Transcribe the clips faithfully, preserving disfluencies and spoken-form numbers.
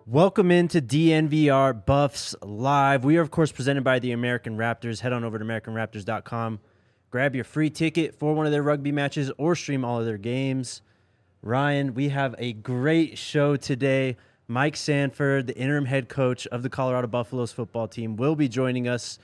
Welcome into D N V R Buffs Live. We are, of course, presented by the American Raptors. Head on over to American Raptors dot com. Grab your free ticket for one of their rugby matches or stream all of their games. Ryan, we have a great show today. Mike Sanford, the interim head coach of the Colorado Buffaloes football team, will be joining us.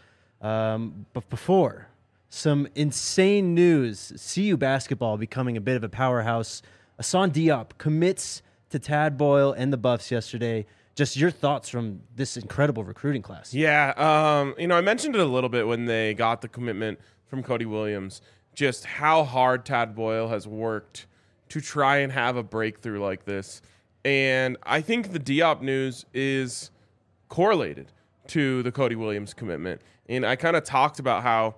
Um, but before, some insane news. C U basketball becoming a bit of a powerhouse. Hassan Diop commits to Tad Boyle and the Buffs yesterday. Just your thoughts from this incredible recruiting class. Yeah, um, you know, I mentioned it a little bit when they got the commitment from Cody Williams, just how hard Tad Boyle has worked to try and have a breakthrough like this. And I think the Diop news is correlated to the Cody Williams commitment. And I kind of talked about how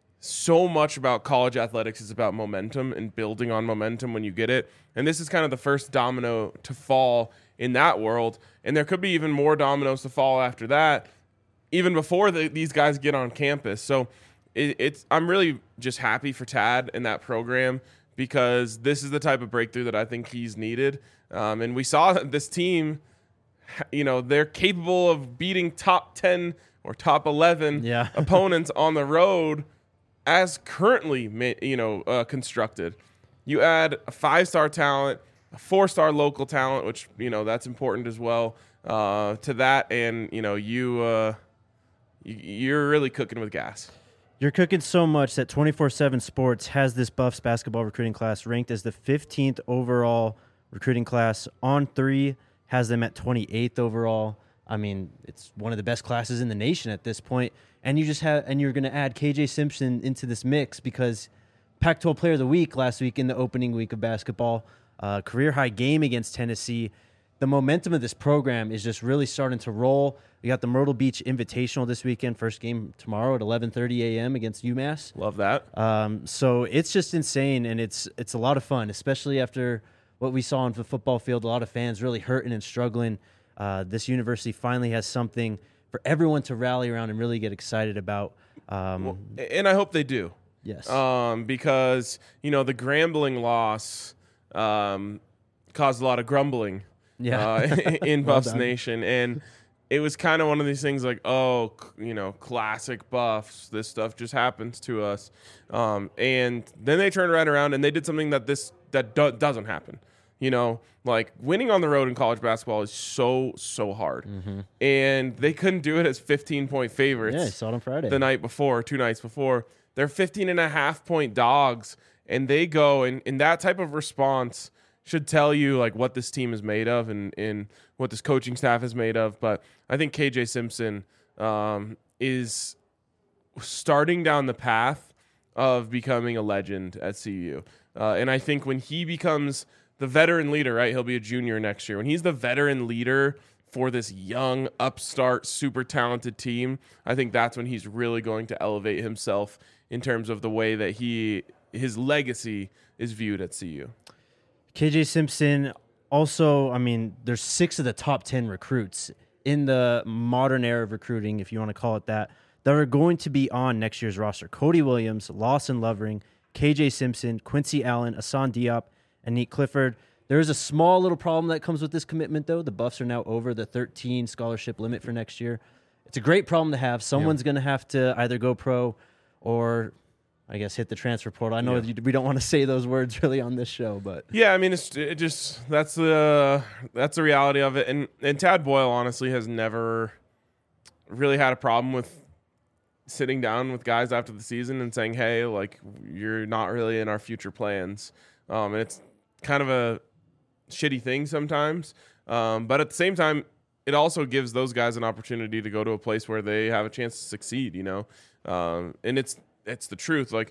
so much about college athletics is about momentum and building on momentum when you get it. And this is kind of the first domino to fall in that world. And there could be even more dominoes to fall after that, even before the, these guys get on campus. So it, it's I'm really just happy for Tad and that program, because this is the type of breakthrough that I think he's needed. Um, and we saw that this team, you know, they're capable of beating top ten or top eleven yeah. opponents on the road as currently, you know, uh, constructed. You add a five-star talent, a four-star local talent, which, you know, that's important as well, uh, to that, and, you know, you, uh, you, you're really cooking with gas. You're cooking so much that twenty-four seven Sports has this Buffs basketball recruiting class ranked as the fifteenth overall recruiting class. On three has them at twenty-eighth overall. I mean, it's one of the best classes in the nation at this point. And you just have, and you're going to add K J Simpson into this mix because Pac twelve Player of the Week last week in the opening week of basketball, uh, career high game against Tennessee. The momentum of this program is just really starting to roll. We got the Myrtle Beach Invitational this weekend, first game tomorrow at eleven thirty a.m. against UMass. Love that. Um, so it's just insane, and it's it's a lot of fun, especially after what we saw on the football field. A lot of fans really hurting and struggling. Uh, this university finally has something for everyone to rally around and really get excited about. Um, well, and I hope they do. Yes. Um, because, you know, the Grambling loss um, caused a lot of grumbling yeah. uh, in Well Buffs done. Nation. And it was kind of one of these things like, oh, c- you know, classic Buffs. This stuff just happens to us. Um, and then they turned right around and they did something that this that do- doesn't happen. You know, like winning on the road in college basketball is so, so hard. Mm-hmm. And they couldn't do it as fifteen-point favorites. Yeah, I saw it on Friday. The night before, two nights before. They're fifteen and a half point dogs, and they go, and, and that type of response should tell you like what this team is made of and, and what this coaching staff is made of. But I think K J Simpson um, is starting down the path of becoming a legend at C U. Uh, and I think when he becomes the veteran leader, right, he'll be a junior next year. When he's the veteran leader for this young, upstart, super talented team, I think that's when he's really going to elevate himself in terms of the way that he his legacy is viewed at C U. K J Simpson also, I mean, there's six of the top ten recruits in the modern era of recruiting, if you want to call it that, that are going to be on next year's roster. Cody Williams, Lawson Lovering, K J Simpson, Quincy Allen, Hassan Diop, and Nick Clifford. There is a small little problem that comes with this commitment, though. The Buffs are now over the thirteen scholarship limit for next year. It's a great problem to have. Someone's yeah. going to have to either go pro or, I guess, hit the transfer portal. I know yeah. we don't want to say those words really on this show, but yeah, I mean, it's it just that's the that's the reality of it. And and Tad Boyle honestly has never really had a problem with sitting down with guys after the season and saying, "Hey, like you're not really in our future plans." Um, and it's kind of a shitty thing sometimes. Um, but at the same time, it also gives those guys an opportunity to go to a place where they have a chance to succeed, you know? Um, and it's, it's the truth. Like,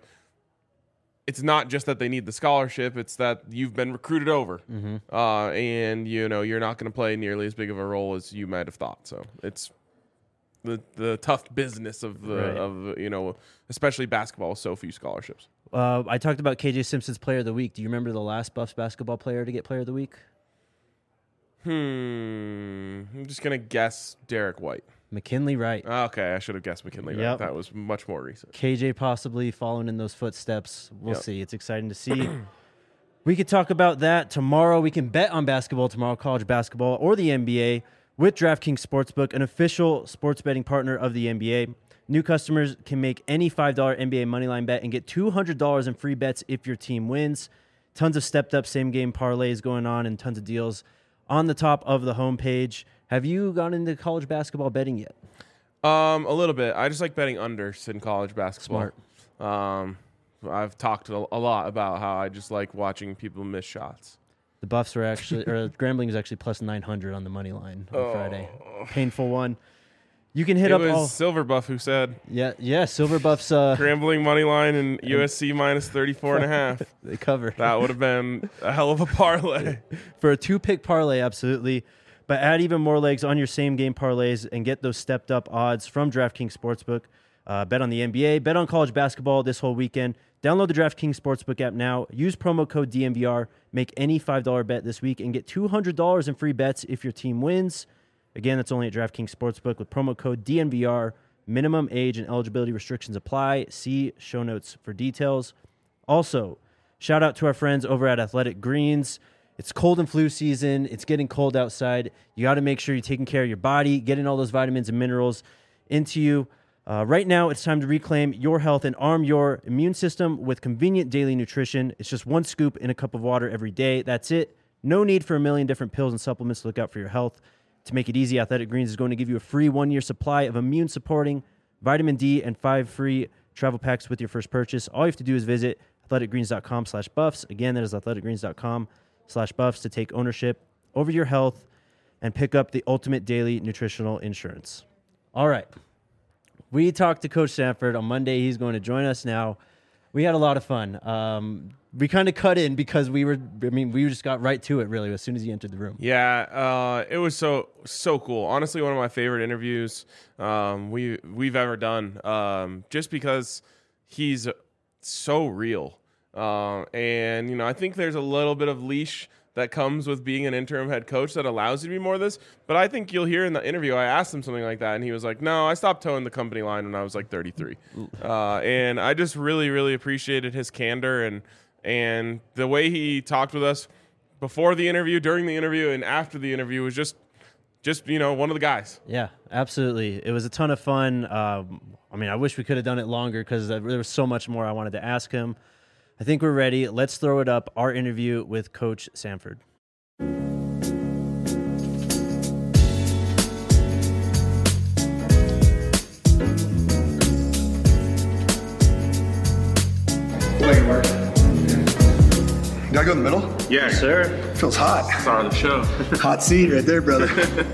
it's not just that they need the scholarship. It's that you've been recruited over. Mm-hmm. Uh, and, you know, you're not going to play nearly as big of a role as you might have thought. So it's the, the tough business of the, right. of, you know, especially basketball with so few scholarships. Uh, I talked about K J Simpson's Player of the Week. Do you remember the last Buffs basketball player to get Player of the Week? Hmm. I'm just going to guess Derek White. McKinley Wright. Okay, I should have guessed McKinley yep. Wright. That was much more recent. K J possibly following in those footsteps. We'll yep. see. It's exciting to see. We could talk about that tomorrow. We can bet on basketball tomorrow, college basketball or the N B A. With DraftKings Sportsbook, an official sports betting partner of the N B A, new customers can make any five dollar N B A moneyline bet and get two hundred dollars in free bets if your team wins. Tons of stepped-up same-game parlays going on and tons of deals on the top of the homepage. Have you gone into college basketball betting yet? Um, a little bit. I just like betting unders in college basketball. Smart. Um, I've talked a, a lot about how I just like watching people miss shots. The Buffs were actually, or Grambling is actually plus nine hundred on the money line on Oh. Friday. Painful one. You can hit It up was all. Silver Buff who said Yeah, yeah. Silver Buffs. Uh, Grambling money line and U S C minus thirty-four and a half. they cover That would have been a hell of a parlay. for a two-pick parlay, absolutely. But add even more legs on your same-game parlays and get those stepped-up odds from DraftKings Sportsbook. Uh, bet on the N B A, bet on college basketball this whole weekend. Download the DraftKings Sportsbook app now. Use promo code D N V R. Make any five dollar bet this week and get two hundred dollars in free bets if your team wins. Again, that's only at DraftKings Sportsbook with promo code D N V R. Minimum age and eligibility restrictions apply. See show notes for details. Also, shout out to our friends over at Athletic Greens. It's cold and flu season. It's getting cold outside. You got to make sure you're taking care of your body, getting all those vitamins and minerals into you. Uh, right now, it's time to reclaim your health and arm your immune system with convenient daily nutrition. It's just one scoop in a cup of water every day. That's it. No need for a million different pills and supplements to look out for your health. To make it easy, Athletic Greens is going to give you a free one-year supply of immune-supporting vitamin D and five free travel packs with your first purchase. All you have to do is visit athleticgreens.com slash buffs. Again, that is athleticgreens.com slash buffs to take ownership over your health and pick up the ultimate daily nutritional insurance. All right. We talked to Coach Sanford on Monday. He's going to join us now. We had a lot of fun. Um, we kind of cut in because we were, I mean, we just got right to it, really, as soon as he entered the room. Yeah, uh, it was so so cool. Honestly, one of my favorite interviews um, we we've ever done. Um, just because he's so real, uh, and you know, I think there's a little bit of leash that comes with being an interim head coach that allows you to be more of this. But I think you'll hear in the interview, I asked him something like that, and he was like, no, I stopped towing the company line when I was like thirty-three. Uh, and I just really, really appreciated his candor and and the way he talked with us before the interview, during the interview, and after the interview was just, just you know, one of the guys. Yeah, absolutely. It was a ton of fun. Um, I mean, I wish we could have done it longer because there was so much more I wanted to ask him. I think we're ready. Let's throw it up. Our interview with Coach Sanford. Do I go in the middle? Yeah, Sir. Feels hot. Star of the show. Hot seat right there, brother.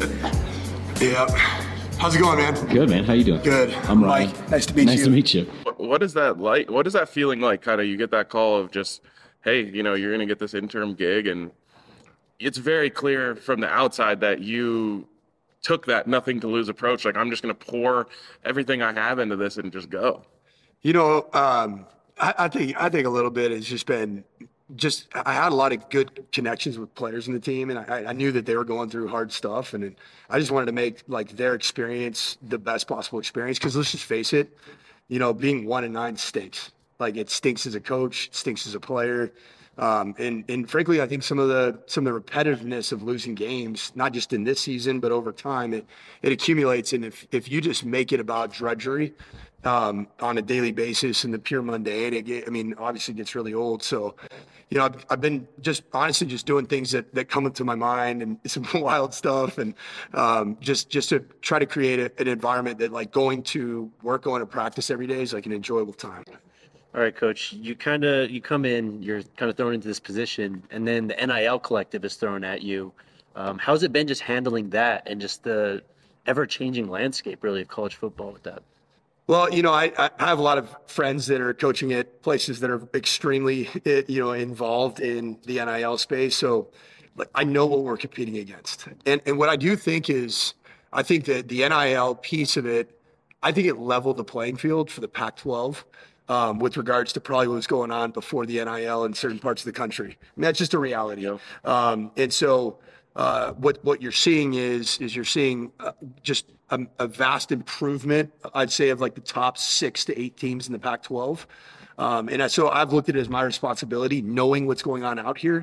Yeah. How's it going, man? Good, man. How you doing? Good. I'm Ryan. Mike. Nice to meet nice you. to meet you. What is that like? What is that feeling like? Kind of, you get that call of just, hey, you know, you're going to get this interim gig, and it's very clear from the outside that you took that nothing to lose approach. Like, I'm just going to pour everything I have into this and just go. You know, um, I, I think I think a little bit has just been just I had a lot of good connections with players in the team, and I, I knew that they were going through hard stuff, and I just wanted to make like their experience the best possible experience. Because let's just face it, you know, being one and nine stinks. Like, it stinks as a coach, it stinks as a player. Um, and, and frankly, I think some of the some of the repetitiveness of losing games, not just in this season, but over time, it, it accumulates. And if, if you just make it about drudgery um, on a daily basis and the pure mundane, it get, I mean, obviously gets really old. So, you know, I've, I've been just honestly just doing things that, that come into my mind and some wild stuff. And um, just, just to try to create a, an environment that, like, going to work, going to practice every day is like an enjoyable time. All right, Coach, you kind of you come in, you're kind of thrown into this position, and then the N I L collective is thrown at you. Um, how's it been just handling that and just the ever-changing landscape, really, of college football with that? Well, you know, I, I have a lot of friends that are coaching at places that are extremely, you know, involved in the N I L space. So, like, I know what we're competing against. And and what I do think is, I think that the N I L piece of it, I think it leveled the playing field for the Pac twelve. Um, with regards to probably what was going on before the N I L in certain parts of the country. I mean, that's just a reality. Um, and so uh, what what you're seeing is is you're seeing uh, just a, a vast improvement, I'd say, of like the top six to eight teams in the Pac twelve. Um, and so I've looked at it as my responsibility, knowing what's going on out here,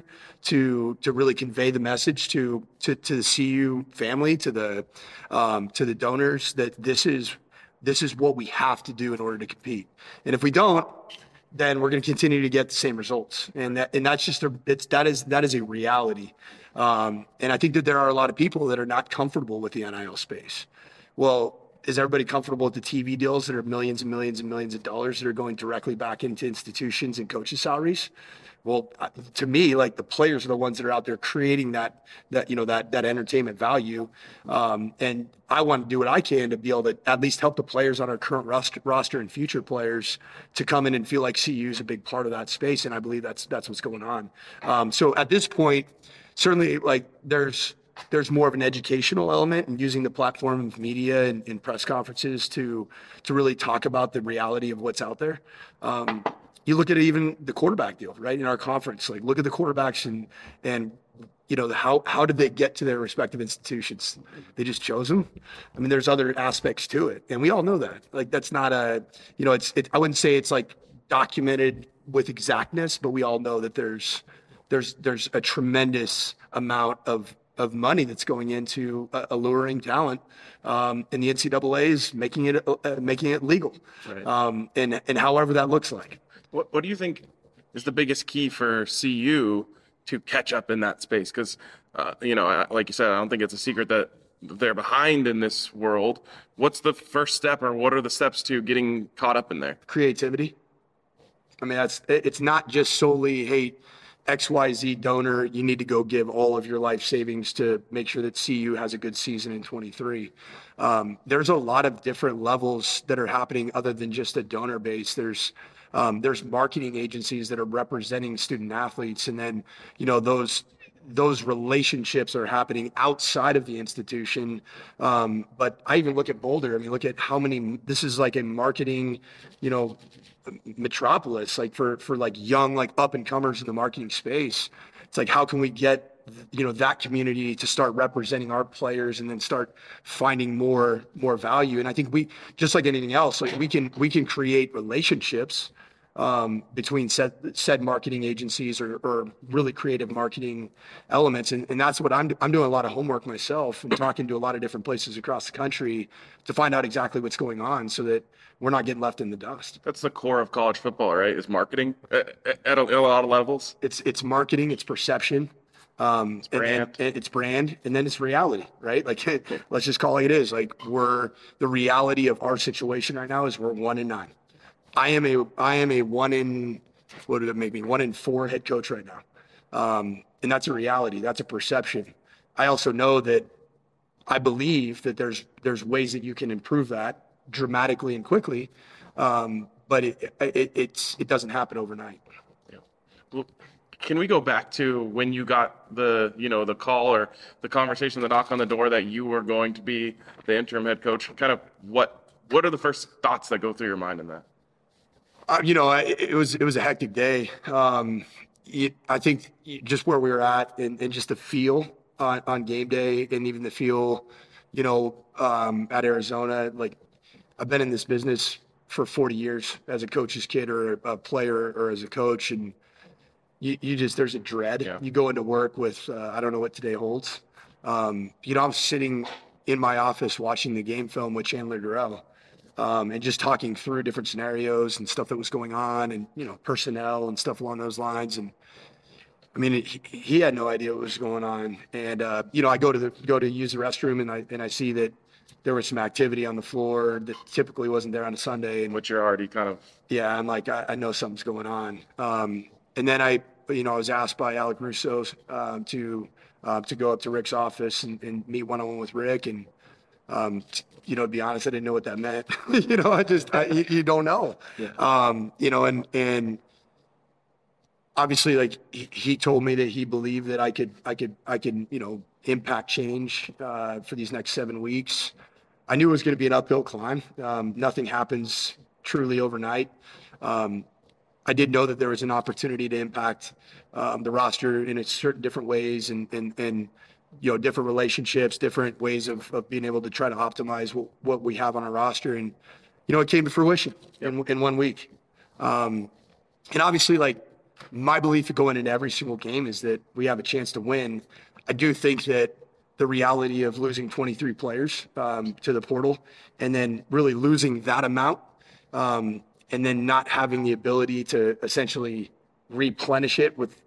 to to really convey the message to to, to the C U family, to the um, to the donors, that this is this is what we have to do in order to compete. And if we don't, then we're going to continue to get the same results. And that and that's just a it's that is that is a reality. Um, and I think that there are a lot of people that are not comfortable with the N I L space. Well, is everybody comfortable with the T V deals that are millions and millions and millions of dollars that are going directly back into institutions and coaches' salaries? Well, to me, like, the players are the ones that are out there creating that, that you know, that that entertainment value. Um, and I want to do what I can to be able to at least help the players on our current roster, roster and future players to come in and feel like C U is a big part of that space. And I believe that's that's what's going on. Um, so at this point, certainly, like, there's there's more of an educational element in using the platform of media and, and press conferences to to really talk about the reality of what's out there. Um, you look at even the quarterback deal, right, in our conference. Like, look at the quarterbacks and and you know how how did they get to their respective institutions? They just chose them. I mean, there's other aspects to it, and we all know that. Like, that's not a you know it's it, I wouldn't say it's like documented with exactness, but we all know that there's there's there's a tremendous amount of of money that's going into uh, alluring talent, um, and the N C double A is making it uh, making it legal, Right. um, and and however that looks like. What What do you think is the biggest key for C U to catch up in that space? Because, uh, you know, I- like you said, I don't think it's a secret that they're behind in this world. What's the first step, or what are the steps to getting caught up in there? Creativity. I mean, that's it- it's not just solely, hey, X Y Z donor, you need to go give all of your life savings to make sure that C U has a good season in twenty-three. Um, there's a lot of different levels that are happening other than just a donor base. There's um, there's marketing agencies that are representing student athletes, and then you know those those relationships are happening outside of the institution. Um, but I even look at Boulder. I mean, look at how many. This is like a marketing, you know. metropolis, like for for like young, like up and comers in the marketing space. It's like, how can we get you know that community to start representing our players and then start finding more more value? And I think we, just like anything else, like we can we can create relationships um, between said said marketing agencies or, or really creative marketing elements, and, and that's what I'm I'm doing a lot of homework myself and talking to a lot of different places across the country to find out exactly what's going on, so that we're not getting left in the dust. That's the core of college football, right? Is marketing at, at, a, at a lot of levels. It's it's marketing, it's perception, um, it's brand. And, and it's brand, and then it's reality, right? Like, let's just call it like it is. Like, we're the reality of our situation right now is we're one in nine. I am a I am a one in what did it make me one in four head coach right now, um, and that's a reality. That's a perception. I also know that I believe that there's there's ways that you can improve that dramatically and quickly, um, but it, it it's it doesn't happen overnight. Well, can we go back to when you got the, you know, the call or the conversation, the knock on the door that you were going to be the interim head coach? Kind of what what are the first thoughts that go through your mind in that? Uh, you know, I, it was it was a hectic day. Um, it, I think just where we were at, and, and just the feel on, on game day, and even the feel, you know, um, at Arizona. Like, I've been in this business for forty years as a coach's kid or a player or as a coach, and you, you just there's a dread. Yeah. You go into work with uh, I don't know what today holds. Um, you know, I'm sitting in my office watching the game film with Chandler Durrell. Um, and just talking through different scenarios and stuff that was going on, and you know, personnel and stuff along those lines. And I mean, it, he, he had no idea what was going on. And uh, you know, I go to the go to use the restroom, and I and I see that there was some activity on the floor that typically wasn't there on a Sunday. And Which you're already kind of yeah, I'm like, I, I know something's going on. Um, and then I, you know, I was asked by Alec Russo um, to uh, to go up to Rick's office and, and meet one on one with Rick. And um, t- you know, to be honest, I didn't know what that meant. you know, I just, I, you, you don't know. Yeah. Um, you know, and, and obviously, like, he, he told me that he believed that I could, I could, I could, you know, impact change uh, for these next seven weeks. I knew it was going to be an uphill climb. Um, nothing happens truly overnight. Um, I did know that there was an opportunity to impact um, the roster in a certain different ways, and, and, and you know, different relationships, different ways of, of being able to try to optimize what, what we have on our roster. And, you know, it came to fruition in, in one week. Um, and obviously, like, my belief going into every single game is that we have a chance to win. I do think that the reality of losing twenty-three players um, to the portal and then really losing that amount um, and then not having the ability to essentially replenish it with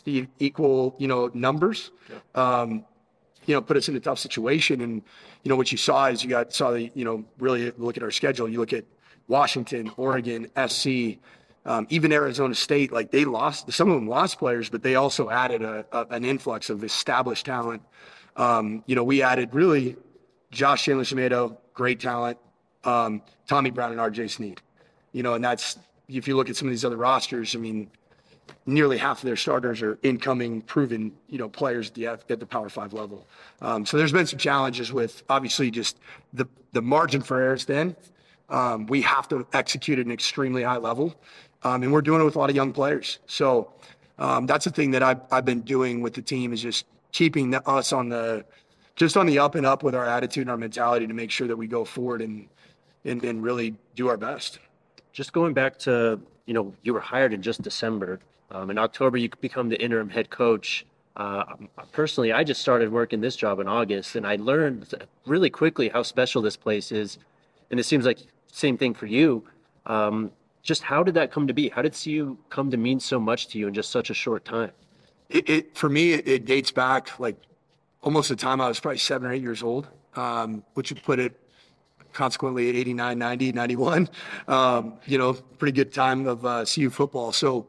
equal, you know, numbers, um, you know, put us in a tough situation. And, you know, what you saw is you got, saw the, you know, really look at our schedule. You look at Washington, Oregon, S C, um, even Arizona State, like they lost, some of them lost players, but they also added a, a, an influx of established talent. Um, you know, we added really Josh Chandler-Semedo, great talent, um, Tommy Brown and R J Sneed, you know, and that's, if you look at some of these other rosters, I mean, nearly half of their starters are incoming, proven, you know, players at the, at the Power Five level. Um, so there's been some challenges with obviously just the, the margin for errors then. Um, we have to execute at an extremely high level. Um, and we're doing it with a lot of young players. So um, that's the thing that I've, I've been doing with the team is just keeping the, us on the, just on the up and up with our attitude and our mentality to make sure that we go forward and, and, and really do our best. Just going back to, you know, you were hired in just December. Um, in October, you become the interim head coach. Uh, personally, I just started working this job in August, and I learned really quickly how special this place is. And it seems like same thing for you. Um, just how did that come to be? How did C U come to mean so much to you in just such a short time? It, it for me, it, it dates back like almost the time I was probably seven or eight years old, um, which would put it consequently at eighty-nine, ninety, ninety-one. Um, you know, pretty good time of uh, C U football. So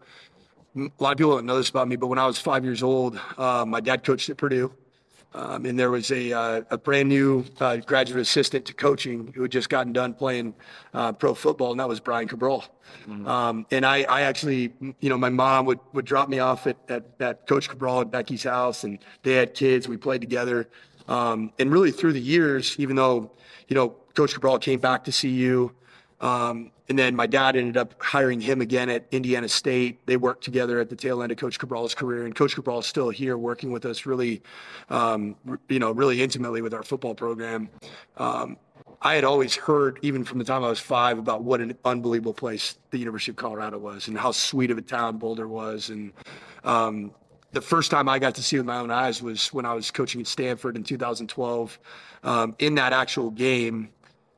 a lot of people don't know this about me, but when I was five years old, uh, my dad coached at Purdue. Um, and there was a, uh, a brand new uh, graduate assistant to coaching who had just gotten done playing uh, pro football, and that was Brian Cabral. Mm-hmm. Um, and I, I actually, you know, my mom would, would drop me off at, at, at Coach Cabral at Becky's house, and they had kids. We played together. Um, and really through the years, even though, you know, Coach Cabral came back to C U, um, and then my dad ended up hiring him again at Indiana State. They worked together at the tail end of Coach Cabral's career, and Coach Cabral is still here working with us really, um, you know, really intimately with our football program. Um, I had always heard, even from the time I was five, about what an unbelievable place the University of Colorado was and how sweet of a town Boulder was. And um, the first time I got to see with my own eyes was when I was coaching at Stanford in two thousand twelve. Um, in that actual game,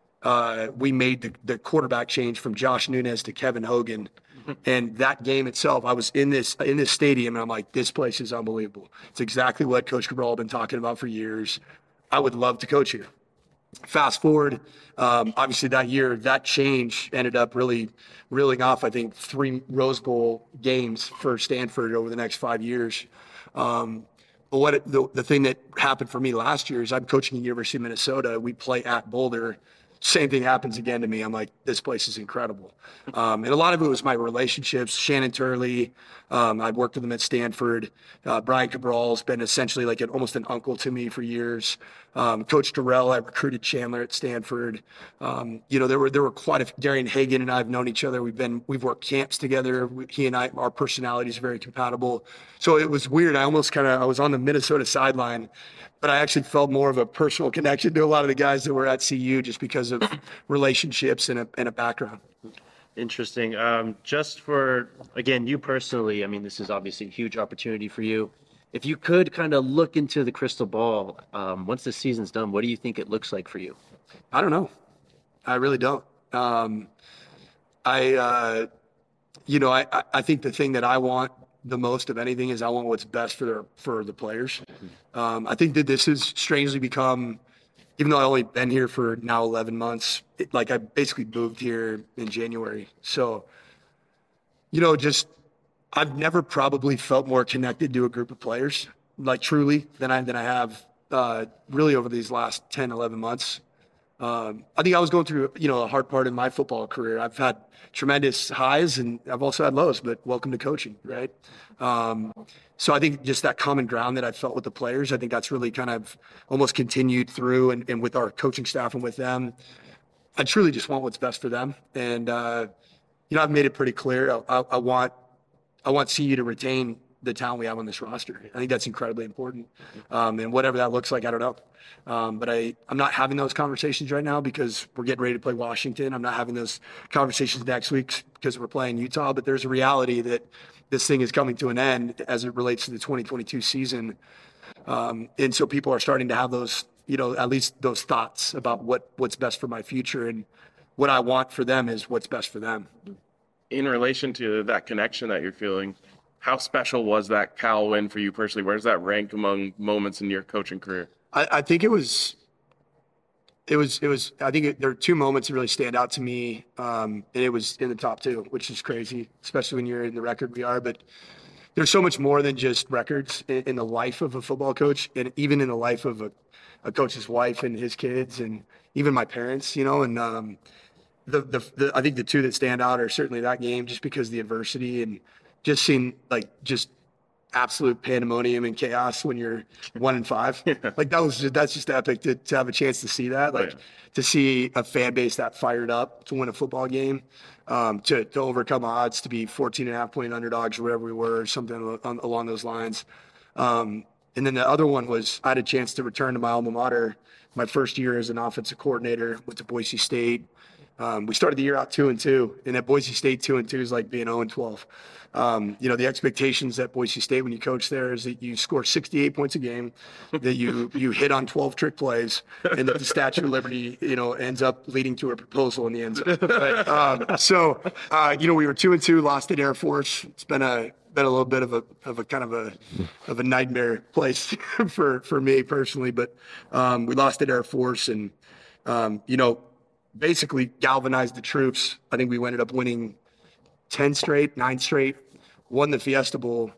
Uh, we made the, the quarterback change from Josh Nunez to Kevin Hogan. And that game itself, I was in this in this stadium, and I'm like, this place is unbelievable. It's exactly what Coach Cabral had been talking about for years. I would love to coach here. Fast forward, um, obviously that year, that change ended up really reeling off, I think, three Rose Bowl games for Stanford over the next five years. Um, but what it, the, the thing that happened for me last year is I'm coaching at University of Minnesota. We play at Boulder. Same thing happens again to me. I'm like, this place is incredible. Um, and a lot of it was my relationships. Shannon Turley, um, I've worked with him at Stanford. Uh, Brian Cabral's been essentially like an, almost an uncle to me for years. Um, Coach Terrell, I recruited Chandler at Stanford. Um, you know, there were there were quite a few. Darian Hagan and I have known each other. We've been we've worked camps together. We, he and I, our personalities are very compatible. So it was weird. I almost kind of I was on the Minnesota sideline, but I actually felt more of a personal connection to a lot of the guys that were at C U just because of relationships and a, and a background. Interesting. Um, just for, again, you personally, I mean, this is obviously a huge opportunity for you. If you could kind of look into the crystal ball, um, once the season's done, what do you think it looks like for you? I don't know. I really don't. Um, I, uh, you know, I, I think the thing that I want the most of anything is I want what's best for their, for the players. Um, I think that this has strangely become, even though I've only been here for now eleven months, it, like I basically moved here in January. So, you know, just I've never probably felt more connected to a group of players, like truly, than I than I have uh, really over these last ten, eleven months. Um, I think I was going through, you know, a hard part in my football career. I've had tremendous highs and I've also had lows, but welcome to coaching, right? Um, so I think just that common ground that I felt with the players, I think that's really kind of almost continued through and, and with our coaching staff and with them. I truly just want what's best for them. And, uh, you know, I've made it pretty clear. I, I, I want, I want C U to retain the talent we have on this roster. I think that's incredibly important. Um, and whatever that looks like, I don't know. Um, but I, I'm not having those conversations right now because we're getting ready to play Washington. I'm not having those conversations next week because we're playing Utah. But there's a reality that this thing is coming to an end as it relates to the twenty twenty-two season. Um, and so people are starting to have those, you know, at least those thoughts about what, what's best for my future. And what I want for them is what's best for them. In relation to that connection that you're feeling, how special was that Cal win for you personally? Where does that rank among moments in your coaching career? I, I think it was, it was, it was, I think it, there are two moments that really stand out to me. Um, and it was in the top two, which is crazy, especially when you're in the record we are. But there's so much more than just records in, in the life of a football coach, and even in the life of a, a coach's wife and his kids, and even my parents, you know, and, um, The, the, the I think the two that stand out are certainly that game, just because of the adversity and just seeing like just absolute pandemonium and chaos when you're one and five. Yeah. Like that was just, that's just epic to, to have a chance to see that, like Oh, yeah. to see a fan base that fired up to win a football game, um, to, to overcome odds, to be fourteen and a half point underdogs or whatever we were, or something on, along those lines. Um, and then the other one was I had a chance to return to my alma mater my first year as an offensive coordinator, went to Boise State. Um, we started the year out two and two, and at Boise State, two and two is like being zero and twelve. Um, you know, the expectations at Boise State when you coach there is that you score sixty-eight points a game, that you you hit on twelve trick plays, and that the Statue of Liberty, you know, ends up leading to a proposal in the end zone. Right? Um, so, uh, you know, we were two and two, lost at Air Force. It's been a been a little bit of a of a kind of a of a nightmare place for for me personally, but um, we lost at Air Force, and um, you know. basically galvanized the troops. I think we ended up winning ten straight, nine straight, won the Fiesta Bowl,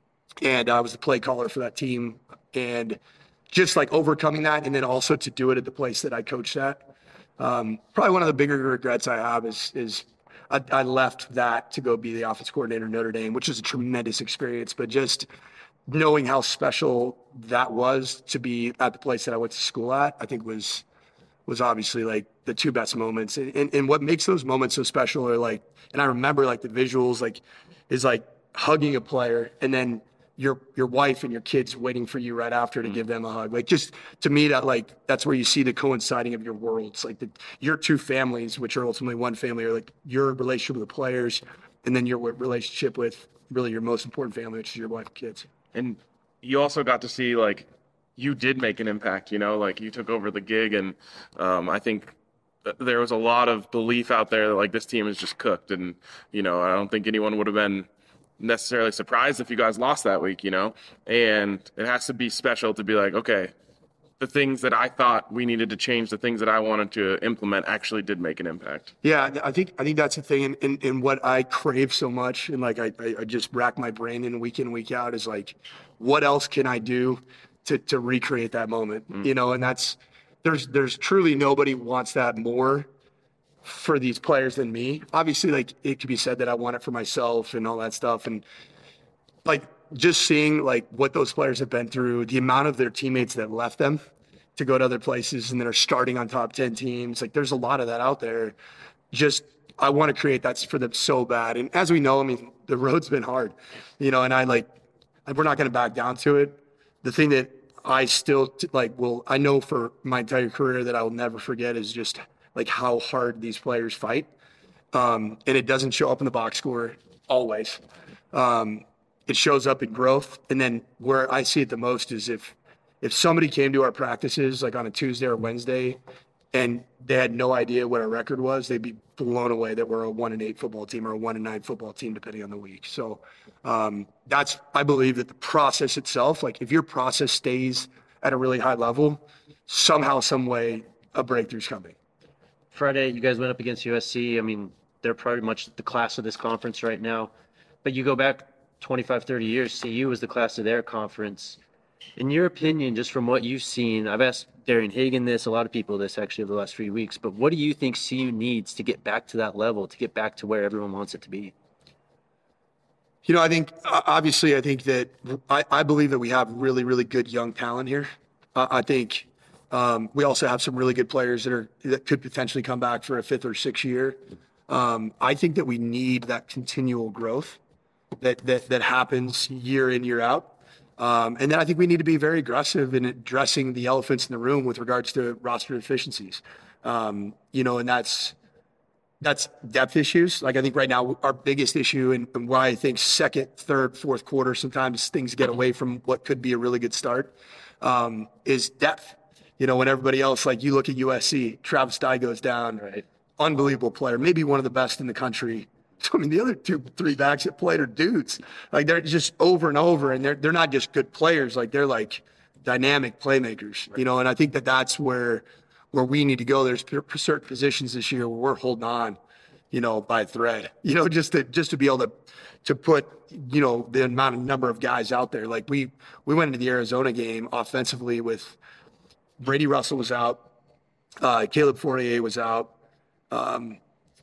and I was the play caller for that team. And just like overcoming that, and then also to do it at the place that I coached at. Um, probably one of the bigger regrets I have is is I, I left that to go be the offense coordinator at Notre Dame, which was a tremendous experience. But just knowing how special that was to be at the place that I went to school at, I think was was obviously like the two best moments. And, and, and what makes those moments so special are like, and I remember like the visuals, like, is like hugging a player and then your your wife and your kids waiting for you right after to give them a hug. Like, just to me, that like that's where you see the coinciding of your worlds. Like the, your two families, which are ultimately one family, are like your relationship with the players, and then your relationship with really your most important family, which is your wife and kids. And you also got to see, like, you did make an impact, you know, like you took over the gig. And um, I think there was a lot of belief out there that like this team is just cooked. And, you know, I don't think anyone would have been necessarily surprised if you guys lost that week, you know, and it has to be special to be like, okay, the things that I thought we needed to change, the things that I wanted to implement actually did make an impact. Yeah, I think I think that's the thing, and, and, and what I crave so much, and like I, I just rack my brain in week in, week out, is like, what else can I do to to recreate that moment? Mm. You know, and that's there's there's truly nobody wants that more for these players than me. Obviously, like it could be said that I want it for myself and all that stuff, and like just seeing like what those players have been through, the amount of their teammates that left them to go to other places and that are starting on top ten teams. Like there's a lot of that out there. Just, I want to create that for them so bad. And as we know, I mean, the road's been hard, you know, and I like, we're not going to back down to it. The thing that I still like, will, I know for my entire career that I will never forget is just like how hard these players fight. Um, and it doesn't show up in the box score always. Um, It shows up in growth. And then where I see it the most is if if somebody came to our practices like on a Tuesday or Wednesday and they had no idea what our record was, they'd be blown away that we're a one and eight football team or a one and nine football team, depending on the week. So um, that's, I believe that the process itself, like if your process stays at a really high level, somehow, some way, a breakthrough's coming. Friday, you guys went up against U S C. I mean, they're pretty much the class of this conference right now. But you go back twenty-five, thirty years, C U was the class of their conference. In your opinion, just from what you've seen, I've asked Darian Hagan this, a lot of people this actually over the last few weeks, but what do you think C U needs to get back to that level, to get back to where everyone wants it to be? You know, I think, obviously, I think that I, I believe that we have really, really good young talent here. Uh, I think um, we also have some really good players that are that could potentially come back for a fifth or sixth year. Um, I think that we need that continual growth. that that that happens year in, year out. Um, and then I think we need to be very aggressive in addressing the elephants in the room with regards to roster deficiencies. Um, you know, and that's that's depth issues. Like I think right now our biggest issue, and, and why I think second, third, fourth quarter sometimes things get away from what could be a really good start, um, is depth. You know, when everybody else, like you look at U S C, Travis Dye goes down, Right. unbelievable player, maybe one of the best in the country. So, I mean, the other two, three backs that played are dudes. Like they're just over and over, and they're they're not just good players. Like they're like dynamic playmakers. You know, and I think that that's where where we need to go. There's p- certain positions this year where we're holding on, you know, by a thread. You know, just to just to be able to to put, you know, the amount of number of guys out there. Like we we went into the Arizona game offensively with Brady Russell was out, uh, Caleb Fourier was out. Um,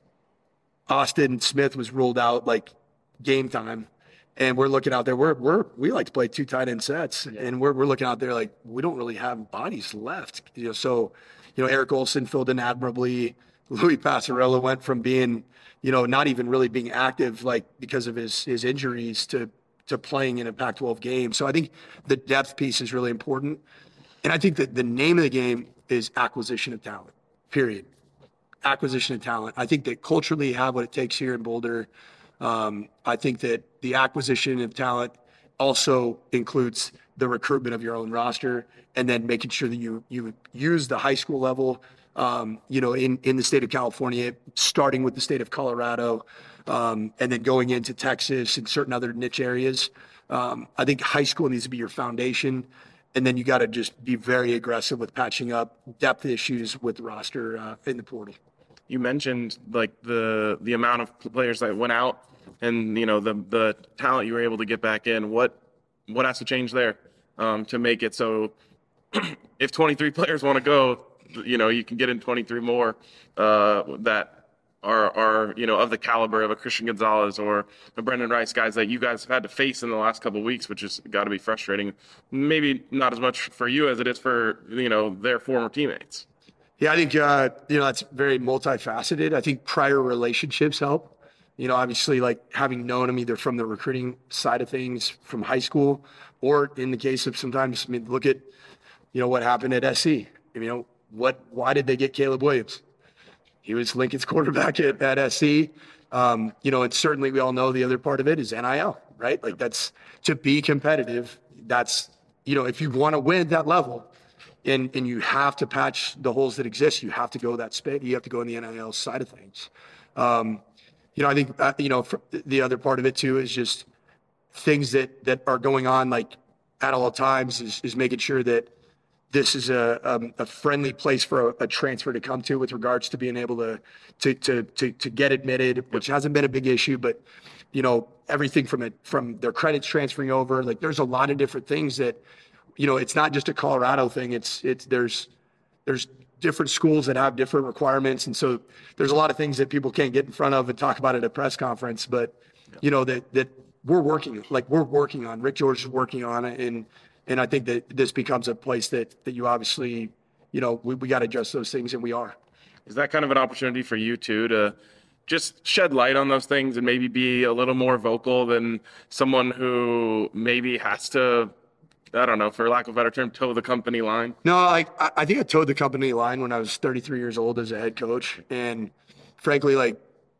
Austin Smith was ruled out like game time, and we're looking out there. We're we're we like to play two tight end sets, and we're we're looking out there like we don't really have bodies left. You know, so you know Eric Olson filled in admirably. Louis Passarella went from being, you know, not even really being active like because of his his injuries to to playing in a Pac twelve game. So I think the depth piece is really important, and I think that the name of the game is acquisition of talent. Period. Acquisition of talent. I think that culturally you have what it takes here in Boulder. Um, I think that the acquisition of talent also includes the recruitment of your own roster, and then making sure that you you use the high school level, um, you know, in, in the state of California, starting with the state of Colorado, um, and then going into Texas and certain other niche areas. Um, I think high school needs to be your foundation. And then you got to just be very aggressive with patching up depth issues with the roster uh, in the portal. You mentioned like the the amount of players that went out, and you know the the talent you were able to get back in. What what has to change there um, to make it so if twenty-three players want to go, you know you can get in twenty-three more uh, that are are you know of the caliber of a Christian Gonzalez or a Brendan Rice, guys that you guys have had to face in the last couple of weeks, which has got to be frustrating. Maybe not as much for you as it is for you know their former teammates. Yeah, I think, uh, you know, that's very multifaceted. I think prior relationships help. You know, obviously, like having known them either from the recruiting side of things from high school, or in the case of sometimes, I mean, look at, you know, what happened at S C. You know, what, why did they get Caleb Williams? He was Lincoln's quarterback at, at S C. Um, you know, and certainly we all know the other part of it is N I L, right? Like that's, to be competitive, that's, you know, if you want to win at that level, And and you have to patch the holes that exist. You have to go that space. You have to go in the N I L side of things. Um, you know, I think uh, you know for the other part of it too is just things that that are going on like at all times is, is making sure that this is a um, a friendly place for a, a transfer to come to with regards to being able to to to to, to get admitted, which hasn't been a big issue, but you know everything from it from their credits transferring over. Like there's a lot of different things that. You know, it's not just a Colorado thing. It's it's there's there's different schools that have different requirements, and so there's a lot of things that people can't get in front of and talk about at a press conference. But you know that that we're working like we're working on. Rick George is working on it, and and I think that this becomes a place that that you obviously, you know, we we got to adjust those things, and we are. Is that kind of an opportunity for you too to just shed light on those things and maybe be a little more vocal than someone who maybe has to, I don't know, for lack of a better term, toe the company line? No, like I, I think I towed the company line when I was thirty-three years old as a head coach, and frankly, like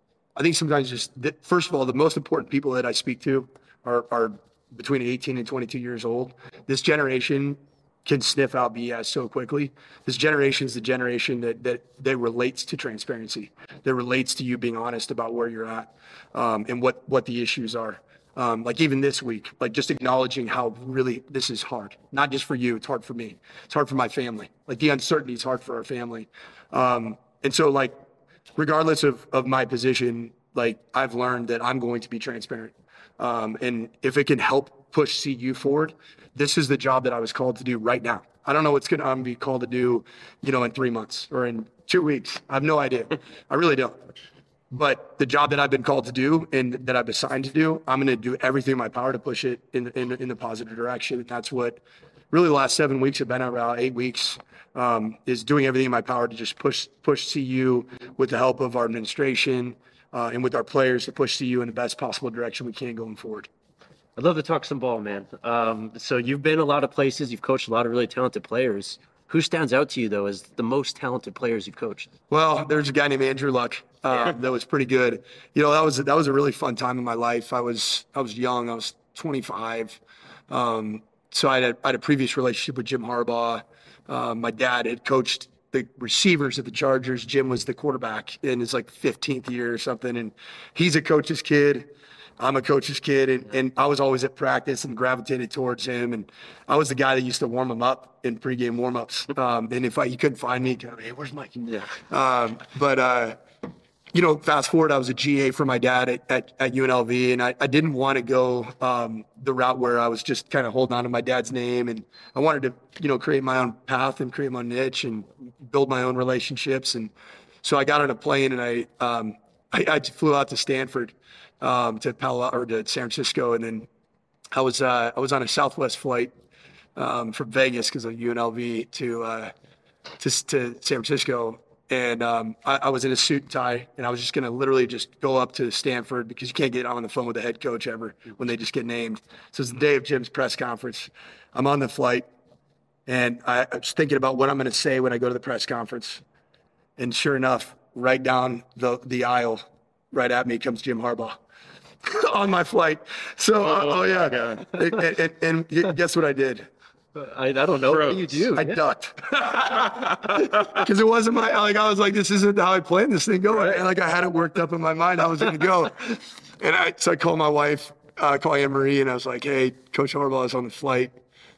I think sometimes just the, first of all, the most important people that I speak to are are between eighteen and twenty-two years old. This generation can sniff out B S so quickly. This generation is the generation that that that relates to transparency, that relates to you being honest about where you're at, um, and what what the issues are. Um, like even this week, like just acknowledging how really this is hard, not just for you, it's hard for me. It's hard for my family. Like the uncertainty is hard for our family. Um, and so like, regardless of, of my position, like I've learned that I'm going to be transparent. Um, and if it can help push C U forward, this is the job that I was called to do right now. I don't know what's going to be called to do, you know, in three months or in two weeks. I have no idea. I really don't. But the job that I've been called to do and that I've assigned to do, I'm going to do everything in my power to push it in in, in the positive direction. And that's what really the last seven weeks have been around, eight weeks, um, is doing everything in my power to just push push C U with the help of our administration, uh, and with our players to push C U in the best possible direction we can going forward. I'd love to talk some ball, man. Um, so you've been a lot of places. You've coached a lot of really talented players. Who stands out to you, though, as the most talented players you've coached? Well, there's a guy named Andrew Luck uh, that was pretty good. You know, that was that was a really fun time in my life. I was I was young. I was twenty-five. Um, so I had, a, I had a previous relationship with Jim Harbaugh. Uh, my dad had coached the receivers at the Chargers. Jim was the quarterback in his like fifteenth year or something. And he's a coach's kid. I'm a coach's kid, and, and I was always at practice and gravitated towards him. And I was the guy that used to warm him up in pregame warmups. Um, and if I, you couldn't find me, go, hey, where's Mike? Yeah. Um, but, uh, you know, fast forward, I was a G A for my dad at, at, at U N L V, and I, I didn't want to go um, the route where I was just kind of holding on to my dad's name. And I wanted to, you know, create my own path and create my own niche and build my own relationships. And so I got on a plane, and I, um, I, I flew out to Stanford. Um, to Palo or to San Francisco, and then I was uh, I was on a Southwest flight um, from Vegas because of U N L V to uh, to to San Francisco, and um, I, I was in a suit and tie, and I was just gonna literally just go up to Stanford because you can't get on the phone with the head coach ever when they just get named. So it's the day of Jim's press conference. I'm on the flight, and I, I was thinking about what I'm gonna say when I go to the press conference, and sure enough, right down the the aisle, right at me comes Jim Harbaugh. On my flight. So, uh, oh, yeah. And, and, and guess what I did? I, I don't know. What do you do? I ducked. Because it wasn't my, like, I was like, this isn't how I planned this thing going. And like, I had it worked up in my mind. I was going to go. And I, so I called my wife, uh, called Anne Marie, and I was like, hey, Coach Harbaugh is on the flight.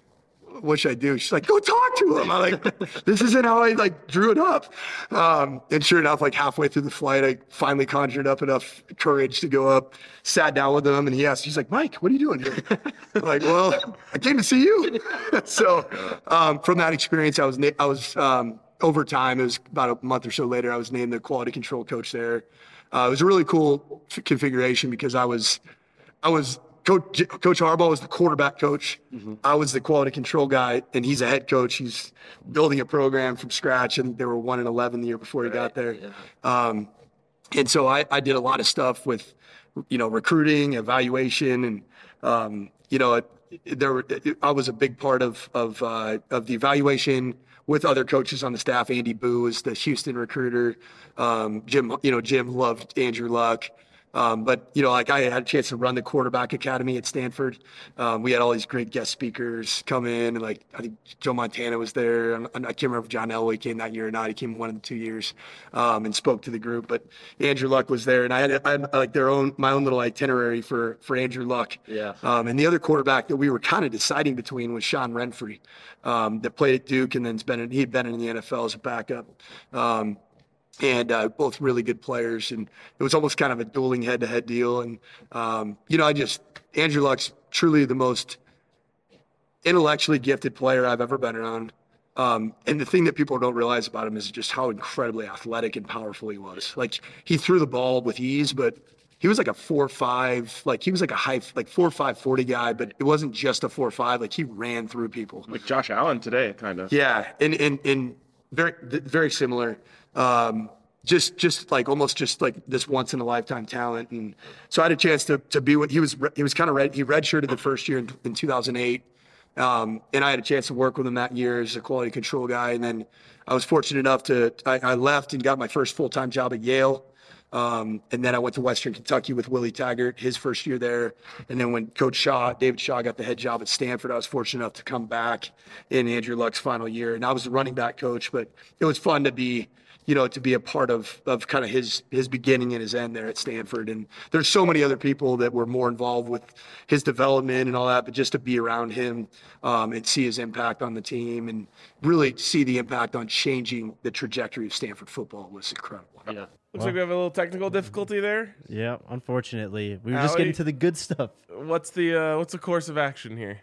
What should I do? She's like, go talk to him. I'm like, this isn't how I like drew it up. Um, and sure enough, like halfway through the flight, I finally conjured up enough courage to go up, sat down with him, and he asked, he's like, Mike, what are you doing here? I'm like, well, I came to see you. So um, from that experience, I was, na- I was um, over time, it was about a month or so later, I was named the quality control coach there. Uh, it was a really cool f- configuration because I was, I was, Coach, coach Harbaugh was the quarterback coach. Mm-hmm. I was the quality control guy, and he's a head coach. He's building a program from scratch, and they were one and eleven the year before he right. got there. Yeah. Um, and so I, I did a lot of stuff with, you know, recruiting, evaluation, and um, you know, it, there were, it, I was a big part of of uh, of the evaluation with other coaches on the staff. Andy Boo was the Houston recruiter. Um, Jim, you know, Jim loved Andrew Luck. Um, but, you know, like I had a chance to run the quarterback academy at Stanford. Um, we had all these great guest speakers come in. And like, I think Joe Montana was there. And I can't remember if John Elway came that year or not. He came one of the two years um, and spoke to the group. But Andrew Luck was there. And I had, I had like their own, my own little itinerary for, for Andrew Luck. Yeah. Um, and the other quarterback that we were kind of deciding between was Sean Renfrey, um, that played at Duke and then's been in, he'd been in the N F L as a backup. Um, And uh, both really good players, and it was almost kind of a dueling head-to-head deal. And um, you know, I just Andrew Luck's truly the most intellectually gifted player I've ever been around. Um, and the thing that people don't realize about him is just how incredibly athletic and powerful he was. Like he threw the ball with ease, but he was like a four five, like he was like a high, like four five forty guy. But it wasn't just a four five. Like he ran through people. Like Josh Allen today, kind of. Yeah, and and and very very similar. Um, just, just like almost just like this once in a lifetime talent. And so I had a chance to, to be what he was, he was kind of red. He redshirted the first year in, in two thousand eight. Um, and I had a chance to work with him that year as a quality control guy. And then I was fortunate enough to, I, I left and got my first full-time job at Yale. Um, and then I went to Western Kentucky with Willie Taggart, his first year there. And then when Coach Shaw, David Shaw, got the head job at Stanford, I was fortunate enough to come back in Andrew Luck's final year. And I was the running back coach, but it was fun to be, you know, to be a part of, of kind of his, his beginning and his end there at Stanford. And there's so many other people that were more involved with his development and all that, but just to be around him um, and see his impact on the team and really see the impact on changing the trajectory of Stanford football was incredible. Yeah. Looks like we have a little technical difficulty there. Yeah, unfortunately. We were just Allie, getting to the good stuff. What's the uh, what's the course of action here?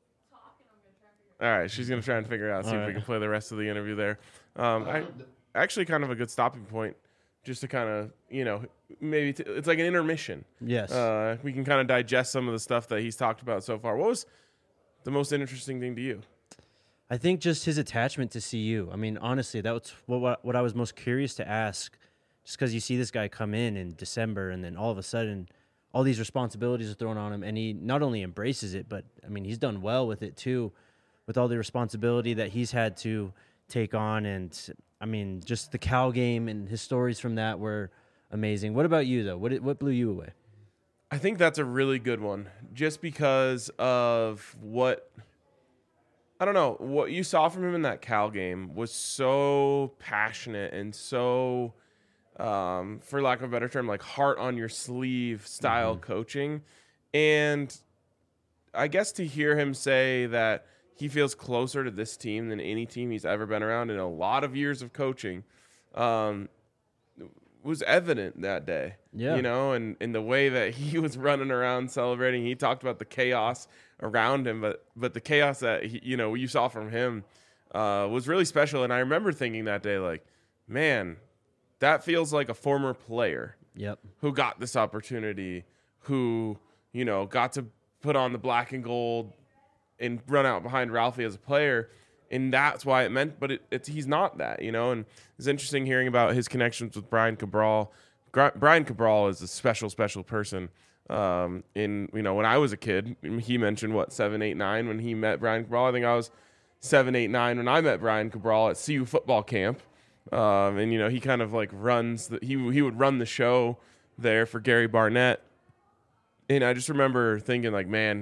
All right, she's going to try and figure out, see All if right. we can play the rest of the interview there. Um, I, actually kind of a good stopping point, just to kind of, you know, maybe t- it's like an intermission. Yes. Uh, we can kind of digest some of the stuff that he's talked about so far. What was the most interesting thing to you? I think just his attachment to C U. I mean, honestly, that was what what, what I was most curious to ask. just because you see this guy come in in December and then all of a sudden all these responsibilities are thrown on him, and he not only embraces it, but I mean, he's done well with it too, with all the responsibility that he's had to take on. And I mean, just the Cal game and his stories from that were amazing. What about you though? What what blew you away? I think that's a really good one, just because of what I don't know what you saw from him in that Cal game was so passionate and so, um, for lack of a better term, like heart on your sleeve style mm-hmm. coaching. And I guess to hear him say that he feels closer to this team than any team he's ever been around in a lot of years of coaching, um, was evident that day. Yeah. You know, and in the way that he was running around celebrating, he talked about the chaos around him, but but the chaos that he, you know, you saw from him uh, was really special. And I remember thinking that day, like, man, that feels like a former player yep. who got this opportunity, who, you know, got to put on the black and gold and run out behind Ralphie as a player. And that's why it meant, but it, it's he's not that, you know. And it's interesting hearing about his connections with Brian Cabral. Gra- Brian Cabral is a special, special person. Um, in you know, when I was a kid, he mentioned what seven, eight, nine when he met Brian Cabral. I think I was seven, eight, nine when I met Brian Cabral at C U football camp. Um, and you know, he kind of like runs the, he he would run the show there for Gary Barnett. And I just remember thinking, like, man,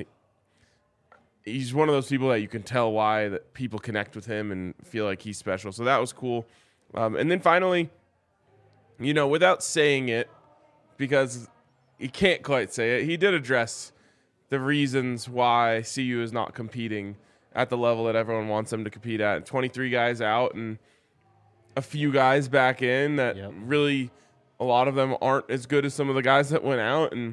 he's one of those people that you can tell why that people connect with him and feel like he's special. So that was cool. Um, and then finally, you know, without saying it, because he can't quite say it, he did address the reasons why C U is not competing at the level that everyone wants them to compete at. twenty-three guys out and a few guys back in that yep. really, a lot of them aren't as good as some of the guys that went out. And,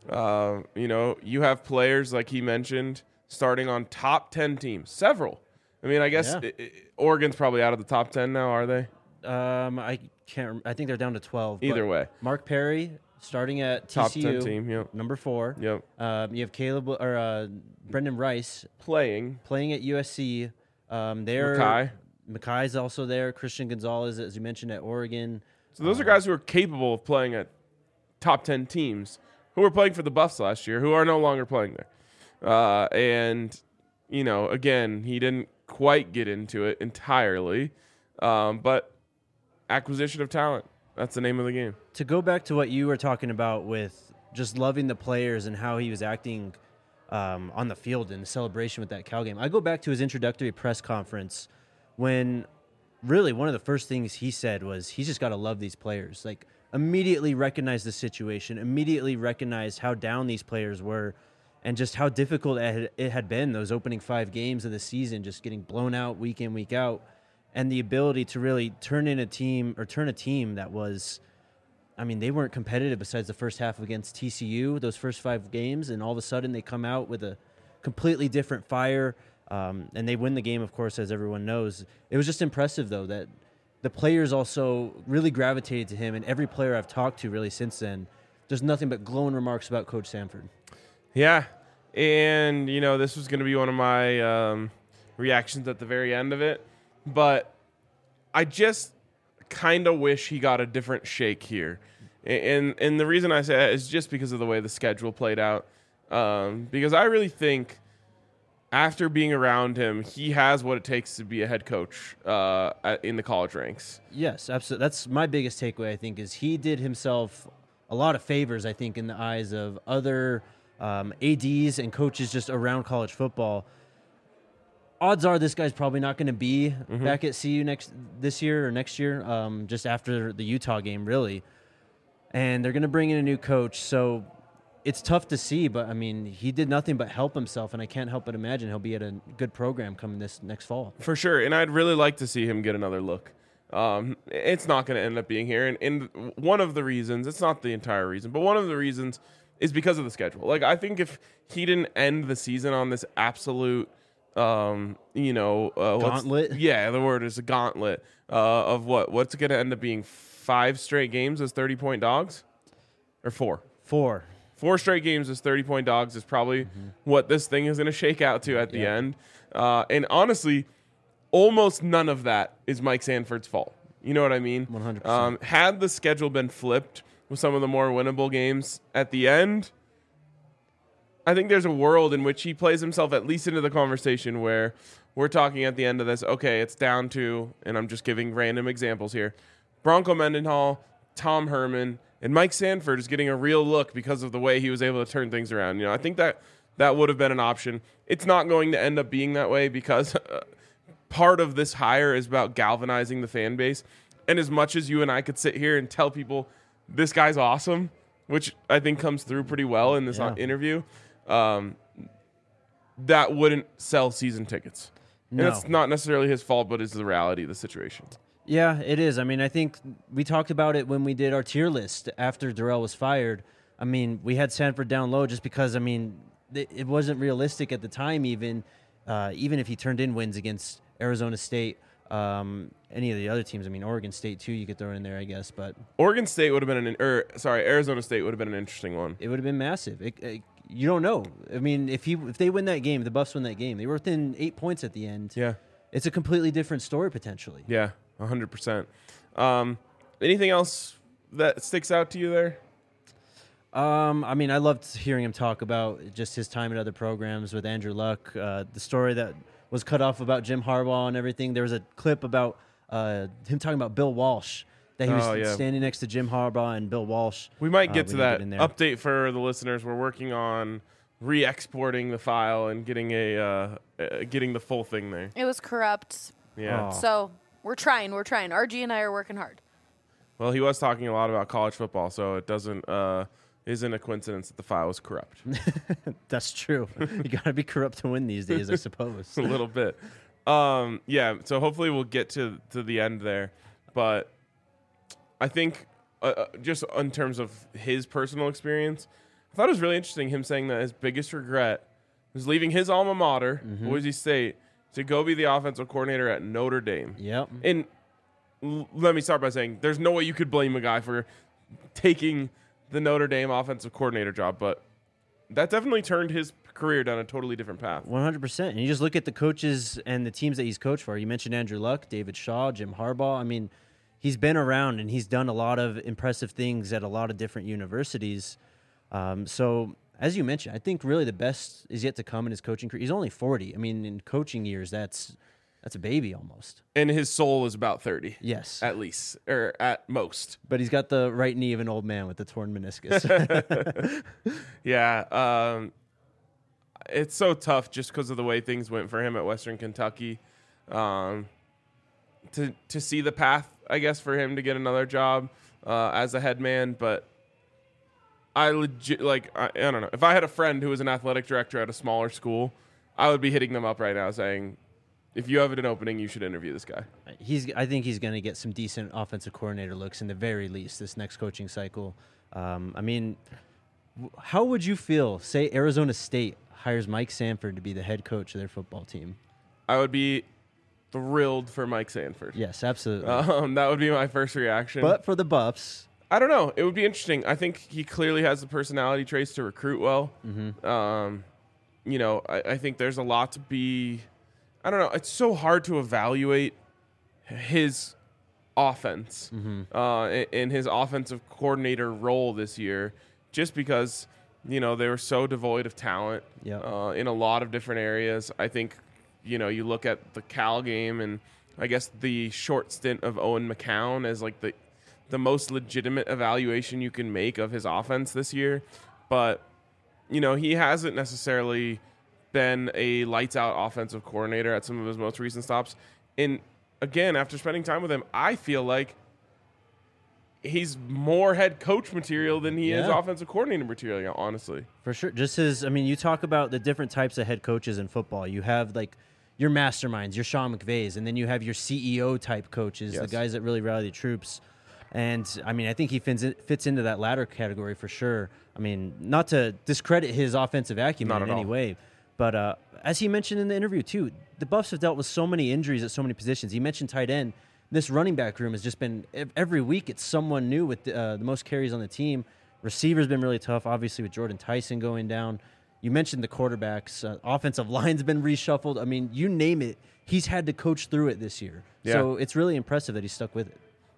uh, you know, you have players like he mentioned starting on top ten teams, several. I mean, I guess Yeah. it, it, Oregon's probably out of the top ten now, are they? Um, I can't. rem- I think they're down to twelve. Either but way. Mark Perry starting at Top T C U, ten team, yep. number four. Yep. Um, you have Caleb or uh, Brendan Rice Playing. playing at U S C. Um, they're Mackay. Mackay's also there. Christian Gonzalez, as you mentioned, at Oregon. So those Um, are guys who are capable of playing at top ten teams, who were playing for the Buffs last year, who are no longer playing there. Uh, and, you know, again, he didn't quite get into it entirely, um, but acquisition of talent, that's the name of the game. To go back to what you were talking about with just loving the players and how he was acting um, on the field in the celebration with that Cal game, I go back to his introductory press conference when really one of the first things he said was he's just got to love these players. Like, immediately recognize the situation, immediately recognize how down these players were and just how difficult it had, it had been those opening five games of the season, just getting blown out week in, week out, and the ability to really turn in a team or turn a team that was, I mean, they weren't competitive besides the first half against T C U, those first five games, and all of a sudden they come out with a completely different fire, um, and they win the game, of course, as everyone knows. It was just impressive, though, that the players also really gravitated to him, and every player I've talked to really since then, there's nothing but glowing remarks about Coach Sanford. Yeah, and, you know, this was going to be one of my um, reactions at the very end of it, but I just kind of wish he got a different shake here. And and the reason I say that is just because of the way the schedule played out. Um, because I really think after being around him, he has what it takes to be a head coach uh, at, in the college ranks. Yes, absolutely. That's my biggest takeaway, I think, is he did himself a lot of favors, I think, in the eyes of other um, A Ds and coaches just around college football. Odds are this guy's probably not going to be mm-hmm. back at C U next this year or next year, um, just after the Utah game, really. And they're going to bring in a new coach, so it's tough to see, but, I mean, he did nothing but help himself, and I can't help but imagine he'll be at a good program coming this next fall. For sure, and I'd really like to see him get another look. Um, it's not going to end up being here, and, and one of the reasons, it's not the entire reason, but one of the reasons is because of the schedule. Like, I think if he didn't end the season on this absolute, um, you know... Uh, gauntlet? Yeah, the word is a gauntlet uh, of what? What's going to end up being five straight games as thirty-point dogs? Or four? Four. Four straight games as thirty-point dogs is probably mm-hmm. what this thing is going to shake out to at the yeah. end. Uh, and honestly, almost none of that is Mike Sanford's fault. You know what I mean? one hundred percent. Um, had the schedule been flipped with some of the more winnable games at the end, I think there's a world in which he plays himself at least into the conversation where we're talking at the end of this, okay, it's down to, and I'm just giving random examples here, Bronco Mendenhall, Tom Herman, and Mike Sanford is getting a real look because of the way he was able to turn things around. You know, I think that that would have been an option. It's not going to end up being that way because uh, part of this hire is about galvanizing the fan base. And as much as you and I could sit here and tell people this guy's awesome, which I think comes through pretty well in this Yeah. interview, um, that wouldn't sell season tickets. No. And it's not necessarily his fault, but it's the reality of the situation. Yeah, it is. I mean, I think we talked about it when we did our tier list after Darrell was fired. I mean, we had Sanford down low just because, I mean, it, it wasn't realistic at the time even, uh, even if he turned in wins against Arizona State, um, any of the other teams. I mean, Oregon State, too, you could throw in there, I guess. But Oregon State would have been an, or sorry, Arizona State would have been an interesting one. it would have been massive. It, it, you don't know. I mean, if he if they win that game, the Buffs win that game, they were within eight points at the end. Yeah. It's a completely different story potentially. Yeah, one hundred percent. Um, anything else that sticks out to you there? Um, I mean, I loved hearing him talk about just his time at other programs with Andrew Luck. Uh, the story that was cut off about Jim Harbaugh and everything. There was a clip about uh, him talking about Bill Walsh, that he was Oh, yeah. standing next to Jim Harbaugh and Bill Walsh. We might Uh, get we to need to that get in there. update for the listeners. We're working on re-exporting the file and getting a uh, uh, getting the full thing there. It was corrupt. Yeah. Oh. So we're trying. We're trying. R G and I are working hard. Well, he was talking a lot about college football, so it doesn't uh, isn't a coincidence that the file was corrupt. That's true. You got to be corrupt to win these days, I suppose. a little bit. Um, yeah, so hopefully we'll get to, to the end there. But I think uh, uh, just in terms of his personal experience, I thought it was really interesting him saying that his biggest regret was leaving his alma mater, Mm-hmm. Boise State, to go be the offensive coordinator at Notre Dame. Yep. And l- let me start by saying there's no way you could blame a guy for taking the Notre Dame offensive coordinator job, but that definitely turned his career down a totally different path. one hundred percent. And you just look at the coaches and the teams that he's coached for. You mentioned Andrew Luck, David Shaw, Jim Harbaugh. I mean, he's been around and he's done a lot of impressive things at a lot of different universities. Um, so, as you mentioned, I think really the best is yet to come in his coaching career. He's only forty. I mean, in coaching years, that's that's a baby almost. And his soul is about thirty. Yes. At least, or at most. But he's got the right knee of an old man with the torn meniscus. Yeah. Um, it's so tough just because of the way things went for him at Western Kentucky. Um, to to see the path, I guess, for him to get another job uh, as a head man. But I legit, like, I, I don't know. If I had a friend who was an athletic director at a smaller school, I would be hitting them up right now saying, if you have an opening, you should interview this guy. he's I think he's going to get some decent offensive coordinator looks in the very least this next coaching cycle. Um, I mean, w- how would you feel, say Arizona State hires Mike Sanford to be the head coach of their football team? I would be thrilled for Mike Sanford. Yes, absolutely. Um, that would be my first reaction. but for the Buffs, I don't know. It would be interesting. I think he clearly has the personality traits to recruit well. Mm-hmm. Um, you know, I, I think there's a lot to be. I don't know. It's so hard to evaluate his offense Mm-hmm. uh, in, in his offensive coordinator role this year, just because you know they were so devoid of talent Yep. uh, in a lot of different areas. I think you know you look at the Cal game and I guess the short stint of Owen McCown as like the the most legitimate evaluation you can make of his offense this year, but you know he hasn't necessarily been a lights out offensive coordinator at some of his most recent stops. And again, after spending time with him, I feel like he's more head coach material than he is Yeah. offensive coordinator material, honestly. for sure. Just as, I mean, you talk about the different types of head coaches in football. You have like your masterminds, your Sean McVays, and then you have your C E O type coaches, the Yes. guys that really rally the troops. And I mean, I think he fits, in, fits into that latter category for sure. I mean, not to discredit his offensive acumen Not in at any all. way, but uh, as he mentioned in the interview too, the Buffs have dealt with so many injuries at so many positions. He mentioned tight end. This running back room has just been ev- every week. It's someone new with the, uh, the most carries on the team. Receiver's been really tough, obviously with Jordan Tyson going down. You mentioned the quarterbacks. Uh, offensive line's been reshuffled. I mean, you name it. He's had to coach through it this year. Yeah. So it's really impressive that he stuck with it.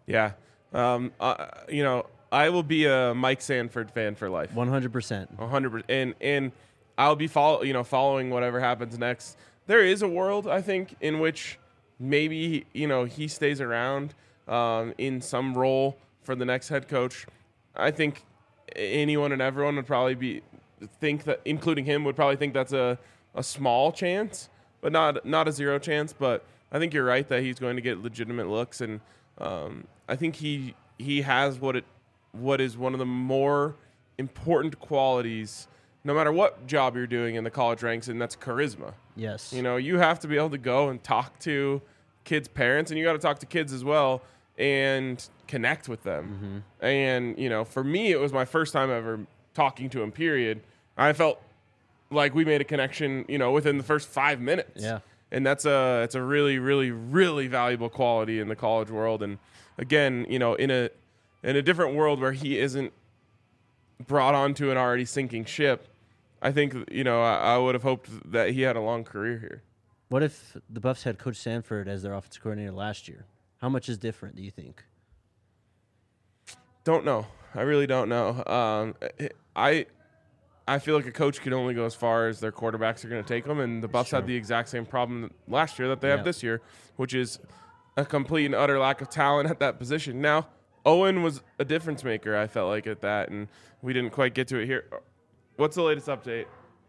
Yeah. Um, uh, you know, I will be a Mike Sanford fan for life. one hundred percent. one hundred percent. And and I'll be follow, you know, following whatever happens next. There is a world, I think, in which maybe, you know, he stays around um, in some role for the next head coach. I think anyone and everyone would probably be think that, including him, would probably think that's a, a small chance, but not not a zero chance. But I think you're right that he's going to get legitimate looks, and um, I think he he has what it what is one of the more important qualities, no matter what job you're doing in the college ranks, and that's charisma. Yes. You know, you have to be able to go and talk to kids' parents, and you got to talk to kids as well and connect with them. Mm-hmm. And, you know, for me, it was my first time ever talking to him, period. I felt like we made a connection, you know, within the first five minutes. Yeah. And that's a, it's a really, really, really valuable quality in the college world. And again, you know, in a, in a different world where he isn't brought onto an already sinking ship, I think, you know, I, I would have hoped that he had a long career here. What if the Buffs had Coach Sanford as their offensive coordinator last year? How much is different, do you think? Don't know. I really don't know. Um, I I feel like a coach can only go as far as their quarterbacks are going to take them, and the Buffs Sure. had the exact same problem last year that they Yeah. have this year, which is a complete and utter lack of talent at that position. Now, Owen was a difference maker, I felt like, at that, and we didn't quite get to it here. What's the latest update?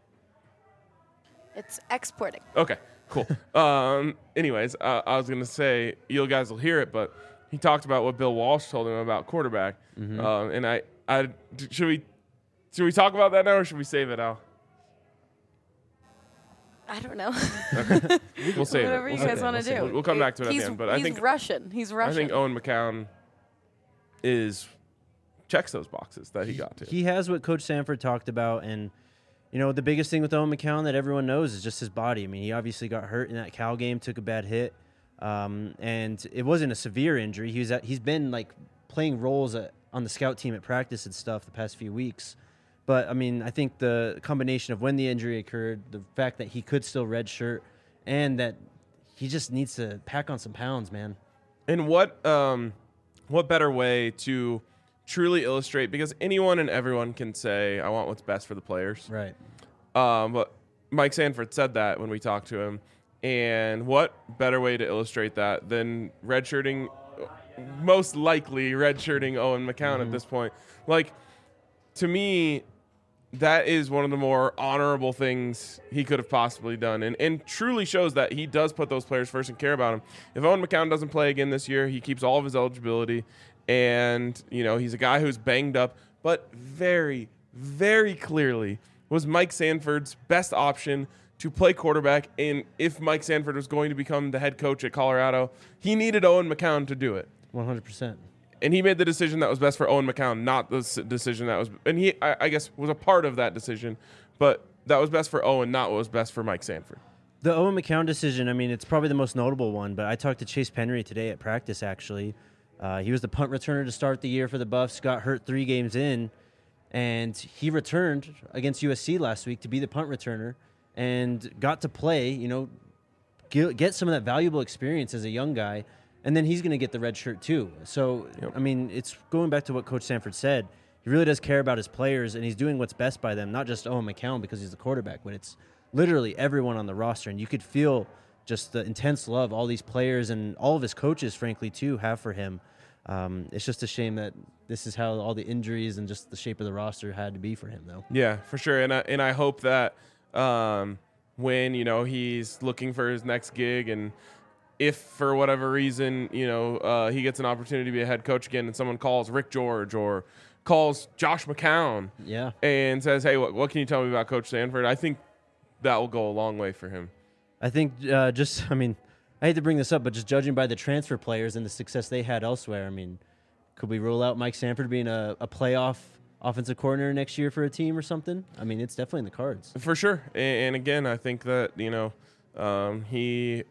It's exporting. Okay, cool. um, anyways, uh, I was going to say, you guys will hear it, but he talked about what Bill Walsh told him about quarterback. Mm-hmm. Um, and I, I, should we, should we talk about that now, or should we save it, Al? I don't know. We'll save Whatever it. you We'll guys save it. want We'll to save do. it. We'll come back to it at he's, the end, but I he's think Russian. He's Russian. I think Owen McCown is checks those boxes that he got to. He has what Coach Sanford talked about, and you know the biggest thing with Owen McCown that everyone knows is just his body. I mean, he obviously got hurt in that Cal game, took a bad hit, um, and it wasn't a severe injury. He was at, he's been like playing roles at, on the scout team at practice and stuff the past few weeks. But I mean, I think the combination of when the injury occurred, the fact that he could still redshirt, and that he just needs to pack on some pounds, man. And what um, what better way to truly illustrate, because anyone and everyone can say, I want what's best for the players. Right. Um, but Mike Sanford said that when we talked to him. And what better way to illustrate that than redshirting, most likely redshirting Owen McCown Mm-hmm. at this point? Like, to me, that is one of the more honorable things he could have possibly done, and, and truly shows that he does put those players first and care about them. If Owen McCown doesn't play again this year, he keeps all of his eligibility, and you know he's a guy who's banged up, but very, very clearly was Mike Sanford's best option to play quarterback. And if Mike Sanford was going to become the head coach at Colorado, he needed Owen McCown to do it. one hundred percent. And he made the decision that was best for Owen McCown, not the s- decision that was, and he, I, I guess, was a part of that decision, but that was best for Owen, not what was best for Mike Sanford. The Owen McCown decision, I mean, it's probably the most notable one, but I talked to Chase Penry today at practice, actually. Uh, he was the punt returner to start the year for the Buffs, got hurt three games in, and he returned against U S C last week to be the punt returner and got to play, you know, get, get some of that valuable experience as a young guy. And then he's going to get the red shirt too. So, Yep. I mean, it's going back to what Coach Sanford said. He really does care about his players, and he's doing what's best by them, not just Owen McCown because he's the quarterback, but it's literally everyone on the roster. And you could feel just the intense love all these players and all of his coaches, frankly, too, have for him. Um, it's just a shame that this is how all the injuries and just the shape of the roster had to be for him, though. Yeah, for sure. And I, and I hope that um, when, you know, he's looking for his next gig, and if for whatever reason, you know, uh, he gets an opportunity to be a head coach again and someone calls Rick George or calls Josh McCown Yeah. and says, hey, what, what can you tell me about Coach Sanford? I think that will go a long way for him. I think uh, just, I mean, I hate to bring this up, but just judging by the transfer players and the success they had elsewhere, I mean, could we rule out Mike Sanford being a, a playoff offensive coordinator next year for a team or something? I mean, it's definitely in the cards. For sure. And, and again, I think that, you know, um, he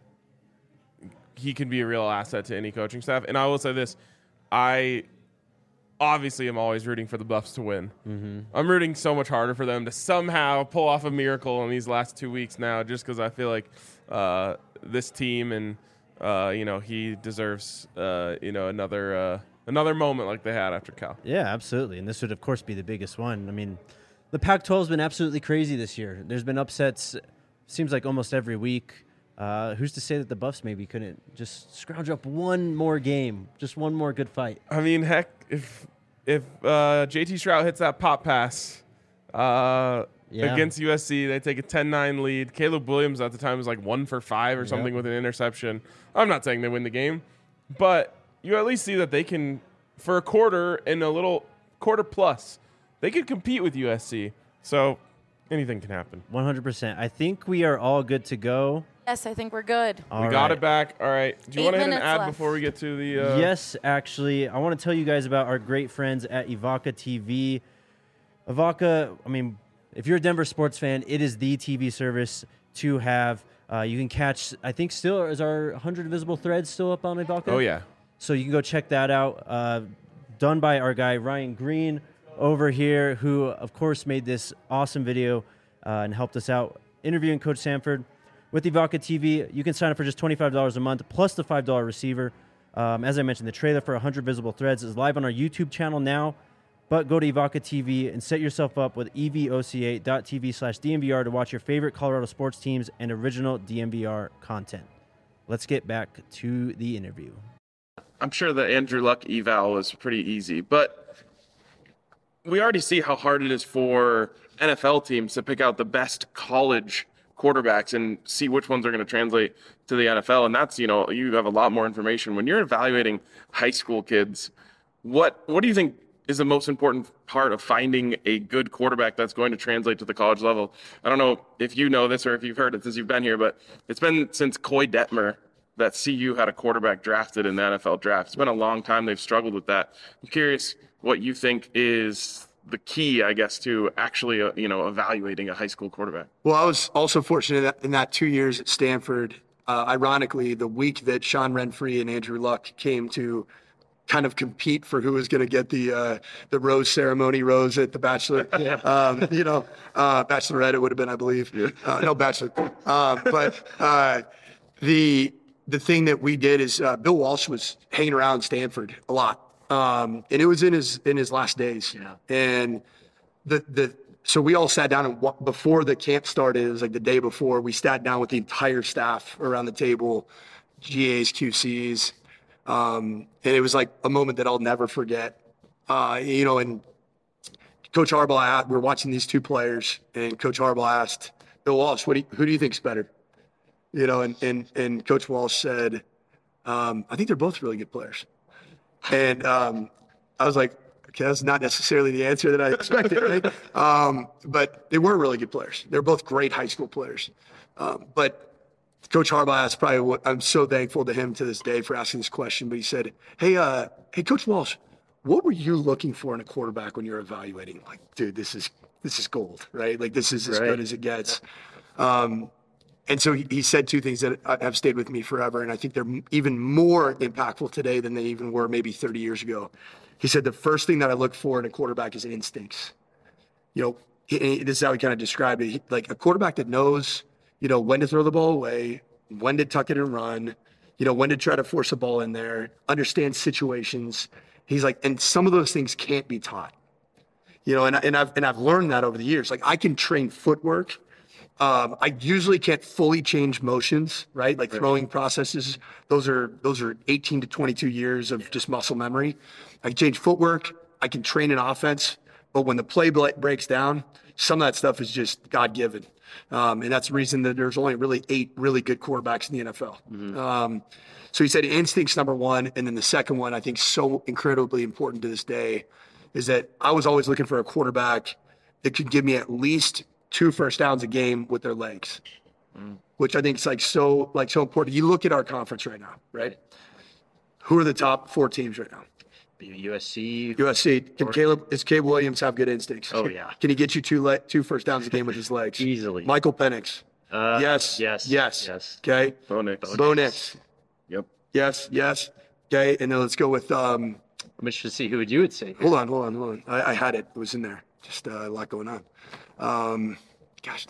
he can be a real asset to any coaching staff. And I will say this, I obviously am always rooting for the Buffs to win. Mm-hmm. I'm rooting so much harder for them to somehow pull off a miracle in these last two weeks now, just because I feel like uh, this team and uh, you know, he deserves, uh, you know, another uh, another moment like they had after Cal. Yeah, absolutely. And this would, of course, be the biggest one. I mean, the Pac twelve has been absolutely crazy this year. There's been upsets, seems like almost every week. Uh, who's to say that the Buffs maybe couldn't just scrounge up one more game, just one more good fight? I mean, heck, if if uh, J T Shrout hits that pop pass uh, Yeah. against U S C, they take a ten nine lead. Caleb Williams at the time was like one for five or something Yep. with an interception. I'm not saying they win the game, but you at least see that they can, for a quarter and a little quarter plus, they could compete with U S C. So anything can happen. one hundred percent. I think we are all good to go. Yes, I think we're good. All we got right. it back. All right. Do you Eight want to hit an minutes ad left. before we get to the? Uh, Yes, actually, I want to tell you guys about our great friends at Evoca T V. Evoca, I mean, if you're a Denver sports fan, it is the T V service to have. Uh, you can catch, I think still, is our one hundred Visible Threads still up on Evoca? Oh yeah. So you can go check that out. Uh, done by our guy, Ryan Green, over here, who, of course, made this awesome video uh, and helped us out interviewing Coach Sanford. With Evoca T V, you can sign up for just twenty-five dollars a month plus the five dollars receiver. Um, as I mentioned, the trailer for one hundred Visible Threads is live on our YouTube channel now. But go to Evoca T V and set yourself up with evoca.tv slash DNVR to watch your favorite Colorado sports teams and original D N V R content. Let's get back to the interview. I'm sure the Andrew Luck eval was pretty easy, but we already see how hard it is for N F L teams to pick out the best college quarterbacks and see which ones are going to translate to the N F L. And that's, you know, you have a lot more information. When you're evaluating high school kids, what what do you think is the most important part of finding a good quarterback that's going to translate to the college level? I don't know if you know this or if you've heard it since you've been here, but it's been since Coy Detmer that C U had a quarterback drafted in the N F L draft. It's been a long time they've struggled with that. I'm curious what you think is the key, I guess, to actually, uh, you know, evaluating a high school quarterback. Well, I was also fortunate in that, in that two years at Stanford. Uh, ironically, the week that Sean Renfree and Andrew Luck came to kind of compete for who was going to get the uh, the rose ceremony rose at the bachelor, um, you know, uh, bachelorette it would have been, I believe. Uh, no, bachelor. Uh, but uh, the the thing that we did is uh, Bill Walsh was hanging around Stanford a lot, um, and it was in his in his last days. Yeah. And the the so we all sat down and wa- before the camp started, it was like the day before, we sat down with the entire staff around the table, G As, Q Cs. Um, and it was like a moment that I'll never forget. Uh, you know, and Coach Harbaugh, we were watching these two players, and Coach Harbaugh asked Bill Walsh, "What do you, who do you think's better?" You know, and and and Coach Walsh said, um, "I think they're both really good players." And um, I was like, "Okay, that's not necessarily the answer that I expected." Right? Um, but they were really good players. They're both great high school players. Um, but Coach Harbaugh asked probably what I'm so thankful to him to this day for asking this question, but he said, Hey, uh, hey, Coach Walsh, what were you looking for in a quarterback when you're evaluating? Like, dude, this is, this is gold, right? Like this is as Right. good as it gets. Um, and so he, he said two things that have stayed with me forever. And I think they're m- even more impactful today than they even were maybe thirty years ago. He said, the first thing that I look for in a quarterback is instincts. You know, he, he- this is how he kind of described it. He, like a quarterback that knows, you know, when to throw the ball away, when to tuck it and run, you know, when to try to force a ball in there, understand situations. He's like, and some of those things can't be taught, you know, and, I- and I've, and I've learned that over the years. Like I can train footwork. Um, I usually can't fully change motions, right? Like throwing processes. Those are, those are eighteen to twenty-two years of just muscle memory. I can change footwork. I can train an offense, but when the play bla- breaks down, some of that stuff is just God given. Um, and that's the reason that there's only really eight really good quarterbacks in the N F L. Um, so he said instincts number one. And then the second one, I think so incredibly important to this day, is that I was always looking for a quarterback that could give me at least two first downs a game with their legs, which I think is like so, like so important. You look at our conference right now, right? Who are the top four teams right now? U S C. U S C. Can Caleb, is Caleb Williams have good instincts? Oh, yeah. Can he get you two le- two first downs a game with his legs? Easily. Michael Penix. Uh, Yes. Yes. Yes. Yes. Okay. Bo Nix. Bo Nix. Yep. Yes. Yes. Okay. And then let's go with, um, I'm interested to see who would you would say. hold on, hold on, hold on. I, I had it. It was in there. Just uh, a lot going on. Um, gosh dang it.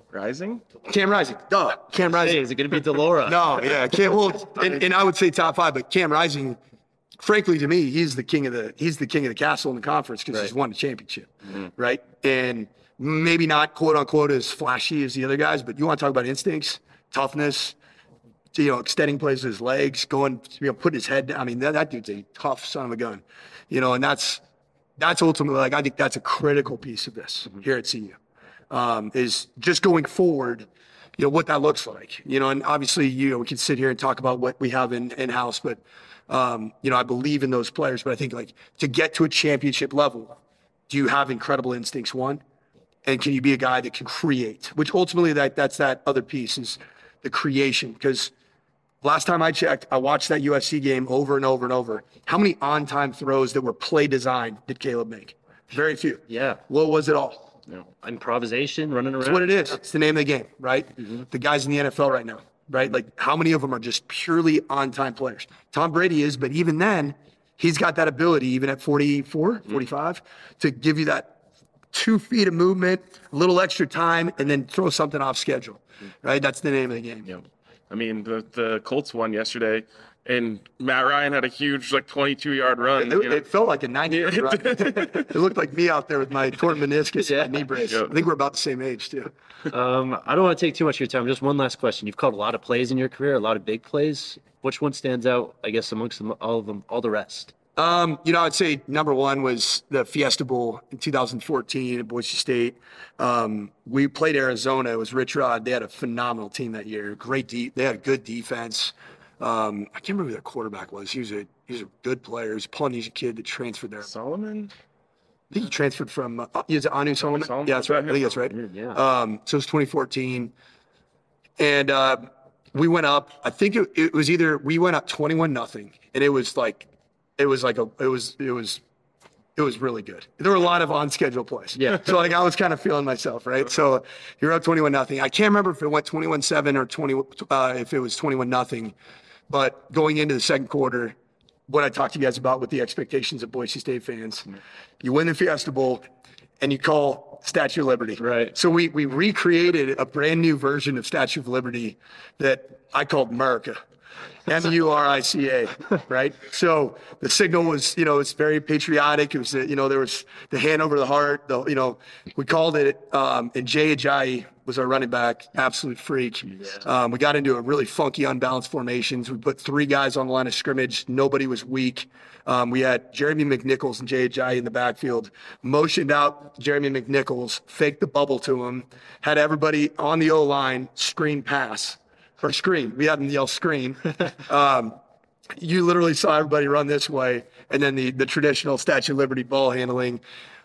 Rising? Cam Rising. Duh. Cam Rising. Hey, is it going to be Delora? No, yeah, Cam. Well, and, and I would say top five, but Cam Rising, frankly, to me, he's the king of the he's the king of the castle in the conference because he's won the championship, right? And maybe not quote unquote as flashy as the other guys, but you want to talk about instincts, toughness, you know, extending plays with his legs, going, you know, putting his head down. I mean, that, that dude's a tough son of a gun, you know, and that's that's ultimately like I think that's a critical piece of this here at C U. Um, is just going forward, you know, what that looks like, you know, and obviously, you know, we can sit here and talk about what we have in, in-house, but, um, you know, I believe in those players, but I think like to get to a championship level, do you have incredible instincts, one? And can you be a guy that can create, which ultimately that that's that other piece is the creation. Because last time I checked, I watched that U S C game over and over and over. How many on-time throws that were play design did Caleb make? Very few. Yeah. What was it all? No. Improvisation, running around. That's what it is. It's the name of the game, right? Mm-hmm. The guys in the N F L right now, right? Like how many of them are just purely on-time players? Tom Brady is, but even then, he's got that ability, even at forty-four, mm-hmm. forty-five, to give you that two feet of movement, a little extra time, and then throw something off schedule, right? That's the name of the game. Yeah. I mean, the, the Colts won yesterday, and Matt Ryan had a huge, like, twenty-two yard run. It, you know? it felt like a ninety yard run. It looked like me out there with my torn meniscus Yeah. and my knee brace. Yeah. I think we're about the same age, too. Um, I don't want to take too much of your time. Just one last question. You've called a lot of plays in your career, a lot of big plays. Which one stands out, I guess, amongst them, all of them, all the rest? Um, you know, I'd say number one was the Fiesta Bowl in two thousand fourteen at Boise State. Um, we played Arizona. It was Rich Rod. They had a phenomenal team that year. Great deep. They had a good defense. Um, I can't remember who their quarterback was. He was a he was a good player. He was a Polynesian kid that transferred there. Solomon? I think he transferred from. Uh, is it Anu Solomon? Solomon? Yeah, that's right. I think that's right. Yeah. Um, so it was twenty fourteen, and uh, we went up. I think it, it was either we went up twenty-one nothing, and it was like, it was like a, it was it was, it was really good. There were a lot of on schedule plays. Yeah. So like I was kind of feeling myself, right? So you're up twenty-one nothing. I can't remember if it went twenty-one seven or twenty, uh, if it was twenty-one nothing, but going into the second quarter, what I talked to you guys about with the expectations of Boise State fans, you win the Fiesta Bowl, and you call Statue of Liberty. Right. So we we recreated a brand new version of Statue of Liberty that I called America. M U R I C A, right? So the signal was, you know, it's very patriotic. It was, you know, there was the hand over the heart. The, you know, we called it, um, and Jay Ajayi was our running back, absolute freak. Um, we got into a really funky, unbalanced formations. We put three guys on the line of scrimmage. Nobody was weak. Um, we had Jeremy McNichols and Jay Ajayi in the backfield, motioned out Jeremy McNichols, faked the bubble to him, had everybody on the O-line screen pass. Or screen. We had them yell screen. Um, you literally saw everybody run this way, and then the, the traditional Statue of Liberty ball handling.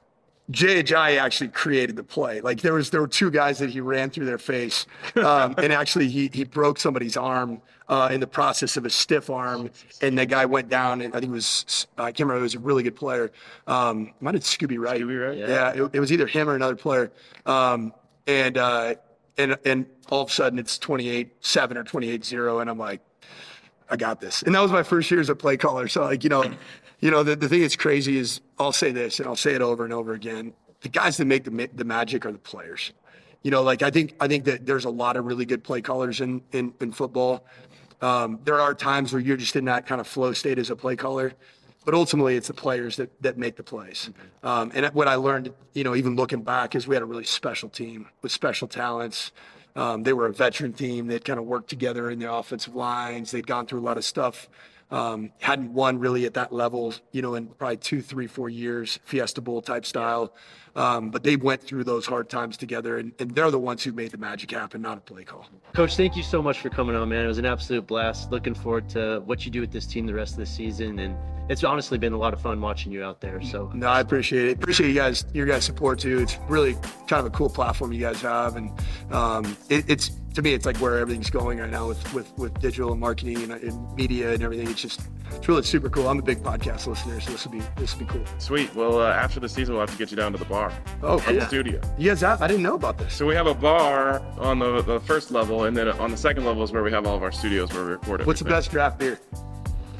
Jay Ajayi actually created the play. Like there was there were two guys that he ran through their face, um, and actually he he broke somebody's arm uh, in the process of a stiff arm, and the guy went down. And I think it was I can't remember. It was a really good player. Um, might have Scooby Wright. Scooby Wright? Yeah, yeah it, it was either him or another player. Um, and uh, and and all of a sudden it's twenty-eight seven or twenty-eight zero, and I'm like, I got this. And that was my first year as a play caller. So like, you know, you know, the, the thing that's crazy is I'll say this and I'll say it over and over again. The guys that make the the magic are the players. You know, like I think I think that there's a lot of really good play callers in in, in football. Um, there are times where you're just in that kind of flow state as a play caller, but ultimately it's the players that that make the plays. Um, and what I learned, you know, even looking back, is we had a really special team with special talents. Um, they were a veteran team. They'd kind of worked together in the offensive lines. They'd gone through a lot of stuff. Um, hadn't won really at that level, you know, in probably two, three, four years, Fiesta Bowl type style. Um, but they went through those hard times together, and, and they're the ones who made the magic happen, not a play call. Coach, thank you so much for coming on, man. It was an absolute blast. Looking forward to what you do with this team the rest of the season, and it's honestly been a lot of fun watching you out there. So no, I appreciate it. Appreciate you guys, your guys' support too. It's really kind of a cool platform you guys have, and um, it, it's to me, it's like where everything's going right now with with, with digital and marketing and, and media and everything. It's just it's really super cool. I'm a big podcast listener, so this will be this will be cool. Sweet. Well, uh, after the season, we'll have to get you down to the bar. Oh, At cool. the studio. You guys have? I didn't know about this. So we have a bar on the, the first level, and then on the second level is where we have all of our studios where we record it. What's the best draft beer?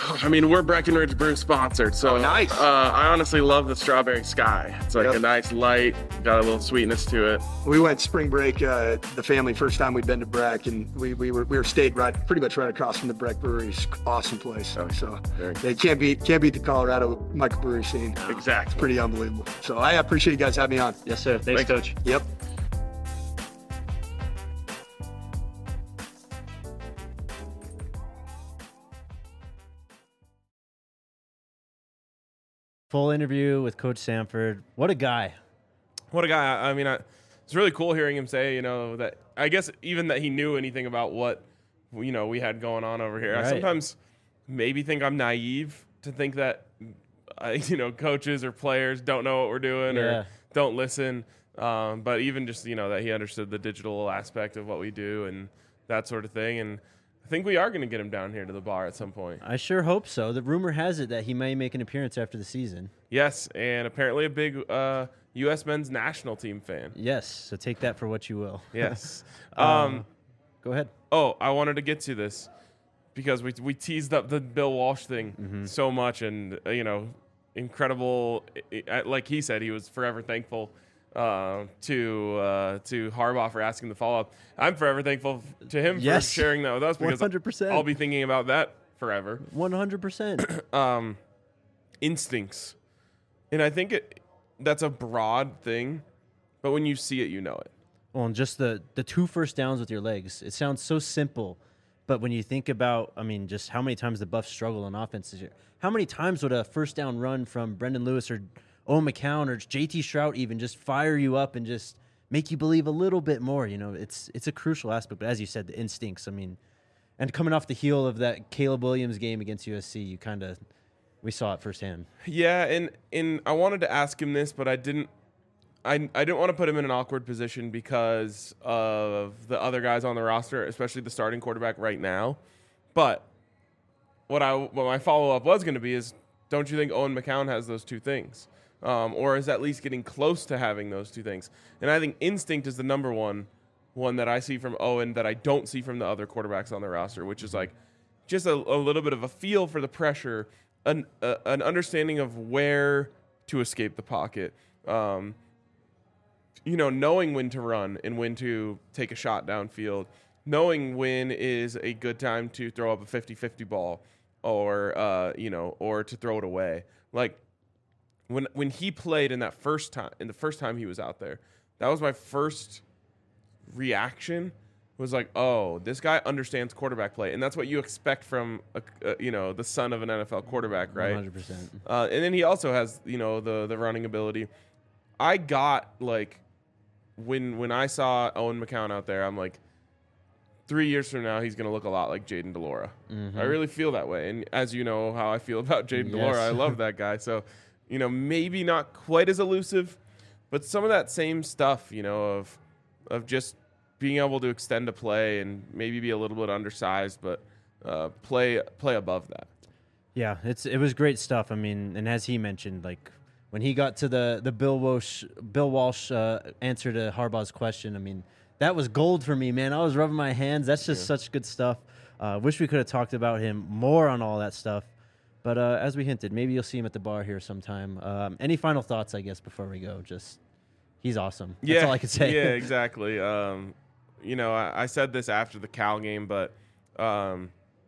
I mean, we're Breckenridge Brew sponsored, so Oh, nice. Uh, I honestly love the Strawberry Sky. It's like Yep. a nice light, got a little sweetness to it. We went spring break, uh, the family first time we'd been to Breck, and we, we were we were stayed right pretty much right across from the Breck Brewery. It's an awesome place. Oh, So very they can't beat can't beat the Colorado microbrewery scene. Exactly. Pretty unbelievable. So I appreciate you guys having me on. Yes, sir. Thanks, Thanks. Coach. Yep. Full interview with Coach Sanford. What a guy. What a guy. I I mean, I, it's really cool hearing him say, you know, that I guess even that he knew anything about what, you know, we had going on over here. I Right. sometimes maybe think I'm naive to think that, uh, you know, coaches or players don't know what we're doing Yeah. or don't listen. Um, but even just, you know, that he understood the digital aspect of what we do and that sort of thing. And I think we are going to get him down here to the bar at some point. I sure hope so. The rumor has it that he may make an appearance after the season. Yes, and apparently a big uh, U S men's national team fan. Yes, so take that for what you will. Yes. Uh, um, Go ahead. Oh, I wanted to get to this because we we teased up the Bill Walsh thing Mm-hmm. so much, and uh, you know, incredible. I- I- Like he said, he was forever thankful uh, to uh, to Harbaugh for asking the follow up. I'm forever thankful to him Yes. for sharing that with us because one hundred percent. I'll be thinking about that forever. one hundred percent. Um, instincts, and I think it that's a broad thing, but when you see it, you know it. Well, and just the the two first downs with your legs. It sounds so simple, but when you think about, I mean, just how many times the Buffs struggle on offense this year. How many times would a first down run from Brendan Lewis or Owen McCown or J T Strout even just fire you up and just make you believe a little bit more? You know, it's it's a crucial aspect. But as you said, the instincts. I mean, and coming off the heel of that Caleb Williams game against U S C, you kind of we saw it firsthand. Yeah, and and I wanted to ask him this, but I didn't. I, I didn't want to put him in an awkward position because of the other guys on the roster, especially the starting quarterback right now. But what I what my follow up was going to be is, don't you think Owen McCown has those two things, um, or is at least getting close to having those two things? And I think instinct is the number one one that I see from Owen that I don't see from the other quarterbacks on the roster, which is like just a, a little bit of a feel for the pressure, an uh, an understanding of where to escape the pocket. Um, you know, knowing when to run and when to take a shot downfield, knowing when is a good time to throw up a fifty-fifty ball or, uh, you know, or to throw it away. Like when, when he played in that first time, in the first time he was out there, that was my first reaction was like, oh, this guy understands quarterback play. And that's what you expect from, a, a, you know, the son of an N F L quarterback, right? one hundred percent. Uh, and then he also has, you know, the the running ability. I got like when when I saw Owen McCown out there, I'm like, three years from now he's gonna look a lot like Jaden DeLora. Mm-hmm. I really feel that way, and as you know how I feel about Jaden Yes. DeLora, I love that guy. So, you know, maybe not quite as elusive, but some of that same stuff, you know, of of just being able to extend a play and maybe be a little bit undersized, but uh, play play above that. Yeah, it's it was great stuff. I mean, and as he mentioned, like when he got to the the Bill Walsh Bill Walsh uh, answer to Harbaugh's question, I mean, that was gold for me, man. I was rubbing my hands. That's just such good stuff. Uh, wish we could have talked about him more on all that stuff. But uh, as we hinted, maybe you'll see him at the bar here sometime. Um, any final thoughts, I guess, before we go? Just he's awesome. That's Yeah, all I can say. Yeah, exactly. Um, you know, I, I said this after the Cal game, but um,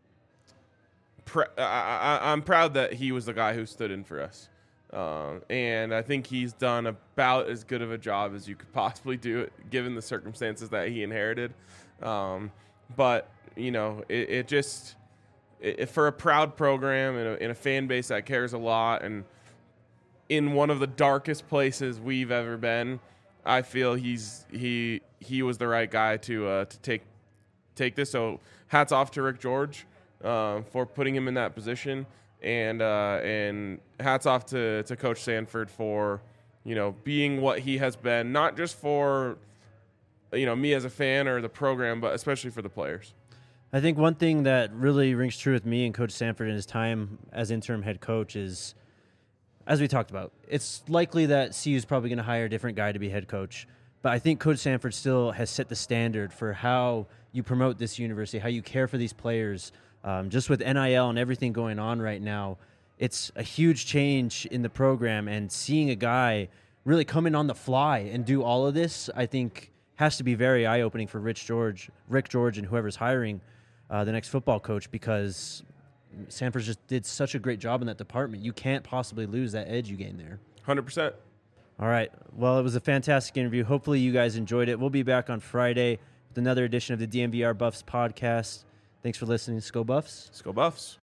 pr- I, I, I'm proud that he was the guy who stood in for us. Um, and I think he's done about as good of a job as you could possibly do, given the circumstances that he inherited. Um, but, you know, it, it just, it, for a proud program and a, in a fan base that cares a lot and in one of the darkest places we've ever been, I feel he's he he was the right guy to uh, to take take this. So hats off to Rick George uh, for putting him in that position, and uh, and hats off to, to Coach Sanford for, you know, being what he has been, not just for, you know, me as a fan or the program, but especially for the players. I think one thing that really rings true with me and Coach Sanford in his time as interim head coach is, as we talked about, it's likely that C U is probably going to hire a different guy to be head coach. But I think Coach Sanford still has set the standard for how you promote this university, how you care for these players. Um, just with N I L and everything going on right now, it's a huge change in the program. And seeing a guy really come in on the fly and do all of this, I think has to be very eye-opening for Rich George, Rick George, and whoever's hiring uh, the next football coach, because Sanford just did such a great job in that department. You can't possibly lose that edge you gained there. one hundred percent. All right. Well, it was a fantastic interview. Hopefully you guys enjoyed it. We'll be back on Friday with another edition of the D M V R Buffs podcast. Thanks for listening. Let's go Buffs. Let's go Buffs.